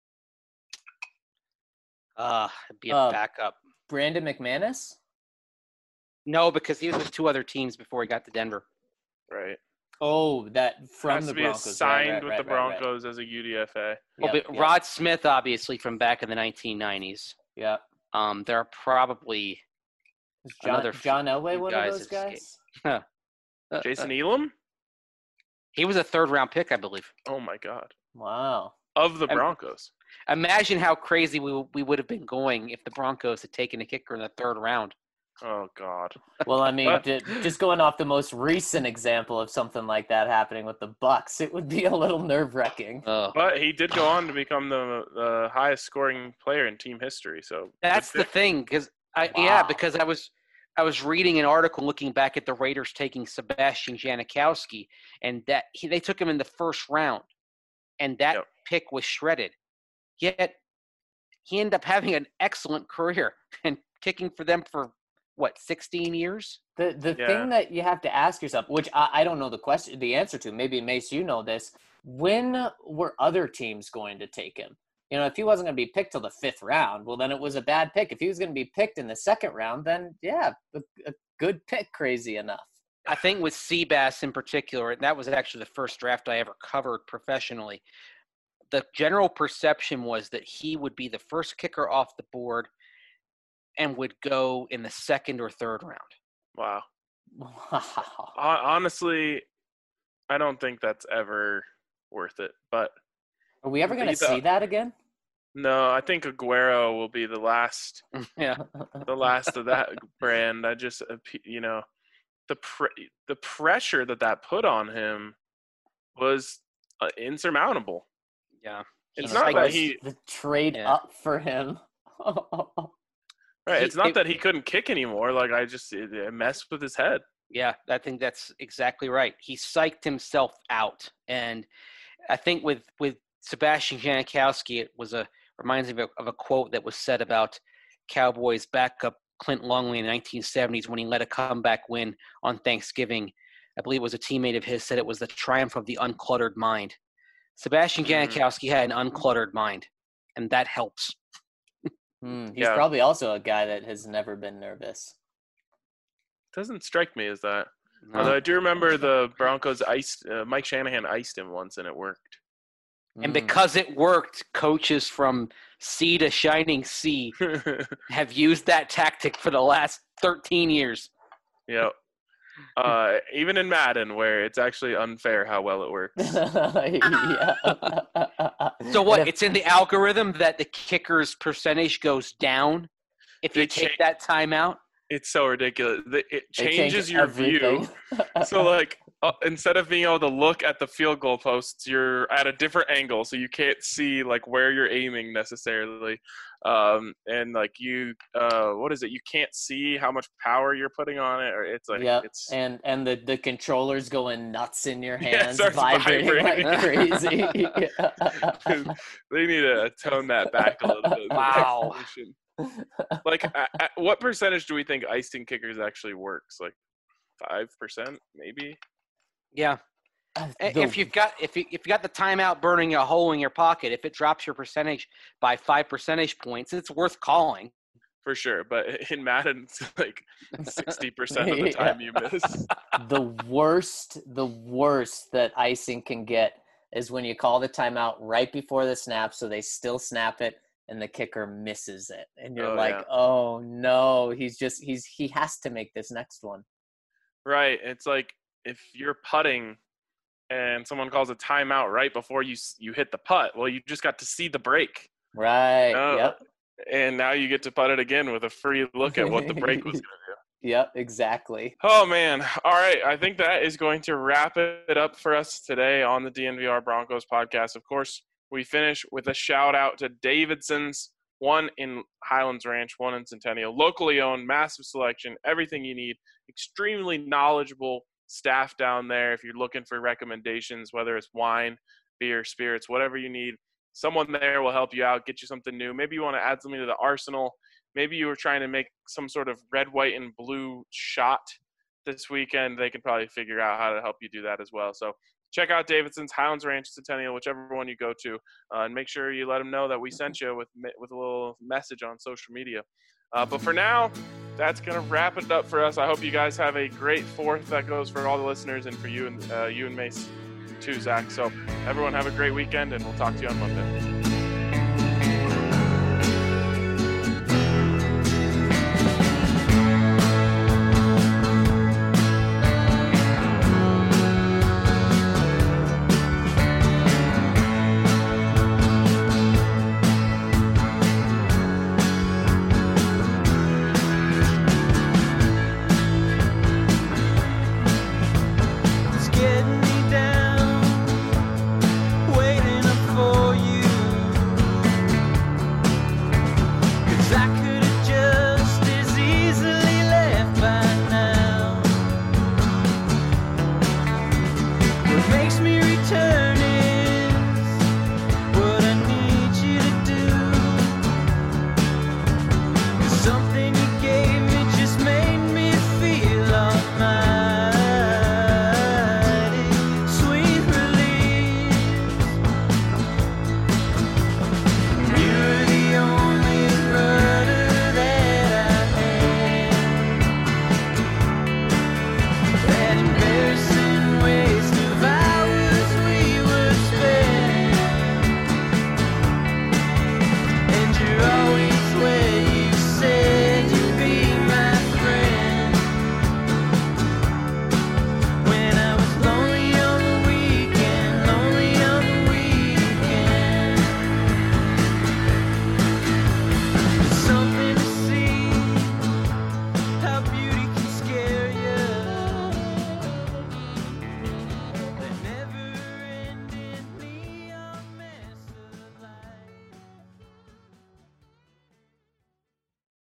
It'd be a backup. Brandon McManus? No, because he was with two other teams before he got to Denver. Right. Oh, that from Has the to be Broncos. signed with the Right. Broncos as a UDFA. Yep, But Rod Smith, obviously, from back in the 1990s. Yep. There are probably Is another John Elway few one guys of those escape. guys? Jason Elam? He was a third-round pick, I believe. Oh, my God. Wow. Of the Broncos. Imagine how crazy we would have been going if the Broncos had taken a kicker in the third round. Oh, God. Well, I mean, just going off the most recent example of something like that happening with the Bucks, it would be a little nerve-wracking. But he did go on to become the highest scoring player in team history. So That's the thing, because Wow. because I was reading an article looking back at the Raiders taking Sebastian Janikowski, and that they took him in the first round, and that Yep. pick was shredded. Yet he ended up having an excellent career and kicking for them for 16 years? The Yeah. thing that you have to ask yourself, which I don't know the answer to, maybe Mace, you know this, when were other teams going to take him? You know, if he wasn't going to be picked till the 5th round, well, then it was a bad pick. If he was going to be picked in the 2nd round, then yeah, a good pick, crazy enough. I think with Seabass in particular, and that was actually the first draft I ever covered professionally, the general perception was that he would be the first kicker off the board and would go in the 2nd or 3rd round. Wow. Wow. Honestly, I don't think that's ever worth it. But Are we ever going to Either- see that again? no, I think Aguero will be the last Yeah. of that brand. I just, the pressure that put on him was insurmountable. Yeah. It's He's not like that Was he the trade Yeah. up for him. right. he- It's not it- that he couldn't kick anymore. Like it messed with his head. Yeah, I think that's exactly right. He psyched himself out. And I think with Sebastian Janikowski, it reminds me of a quote that was said about Cowboys backup Clint Longley in the 1970s when he led a comeback win on Thanksgiving. I believe it was a teammate of his said it was the triumph of the uncluttered mind. Sebastian Janikowski had an uncluttered mind, and that helps. He's Yeah. probably also a guy that has never been nervous. Doesn't strike me as that. No. Although I do remember the Broncos Mike Shanahan iced him once, and it worked. And because it worked, coaches from sea to shining sea have used that tactic for the last 13 years. Yeah. Even in Madden, where it's actually unfair how well it works. Yeah. So what? And if- It's in the algorithm that the kicker's percentage goes down if you They take cha- that timeout? It's so ridiculous. It They change changes your everything. view. So, like, instead of being able to look at the field goal posts, you're at a different angle, so you can't see like where you're aiming necessarily. And like you can't see how much power you're putting on it, or it's like Yep. it's and the controller's going nuts in your Yeah, it hands, starts vibrating like vibrating. crazy. they need to tone that back a little bit. Wow. Like, what percentage do we think icing kickers actually works? Like 5%, maybe? Yeah. If you've got the timeout burning a hole in your pocket, if it drops your percentage by 5 percentage points, it's worth calling. For sure, but in Madden, it's like 60% of the time you miss. The worst that icing can get is when you call the timeout right before the snap, so they still snap it, and the kicker misses it, and you're oh no, he has to make this next one. Right. It's like if you're putting and someone calls a timeout right before you hit the putt, well, you just got to see the break. Right. Yep. And now you get to putt it again with a free look at what the break was going to do. Yep, exactly. Oh, man. All right. I think that is going to wrap it up for us today on the DNVR Broncos podcast. Of course, we finish with a shout out to Davidson's, one in Highlands Ranch, one in Centennial, locally owned, massive selection, everything you need, extremely knowledgeable staff down there. If you're looking for recommendations, whether it's wine, beer, spirits, whatever you need, someone there will help you out, get you something new. Maybe you want to add something to the arsenal. Maybe you were trying to make some sort of red, white, and blue shot this weekend. They can probably figure out how to help you do that as well. So check out Davidson's, Highlands Ranch, Centennial, whichever one you go to, and make sure you let them know that we sent you with a little message on social media. But for now, that's going to wrap it up for us. I hope you guys have a great 4th. That goes for all the listeners and for you and Mace too, Zach. So everyone have a great weekend, and we'll talk to you on Monday.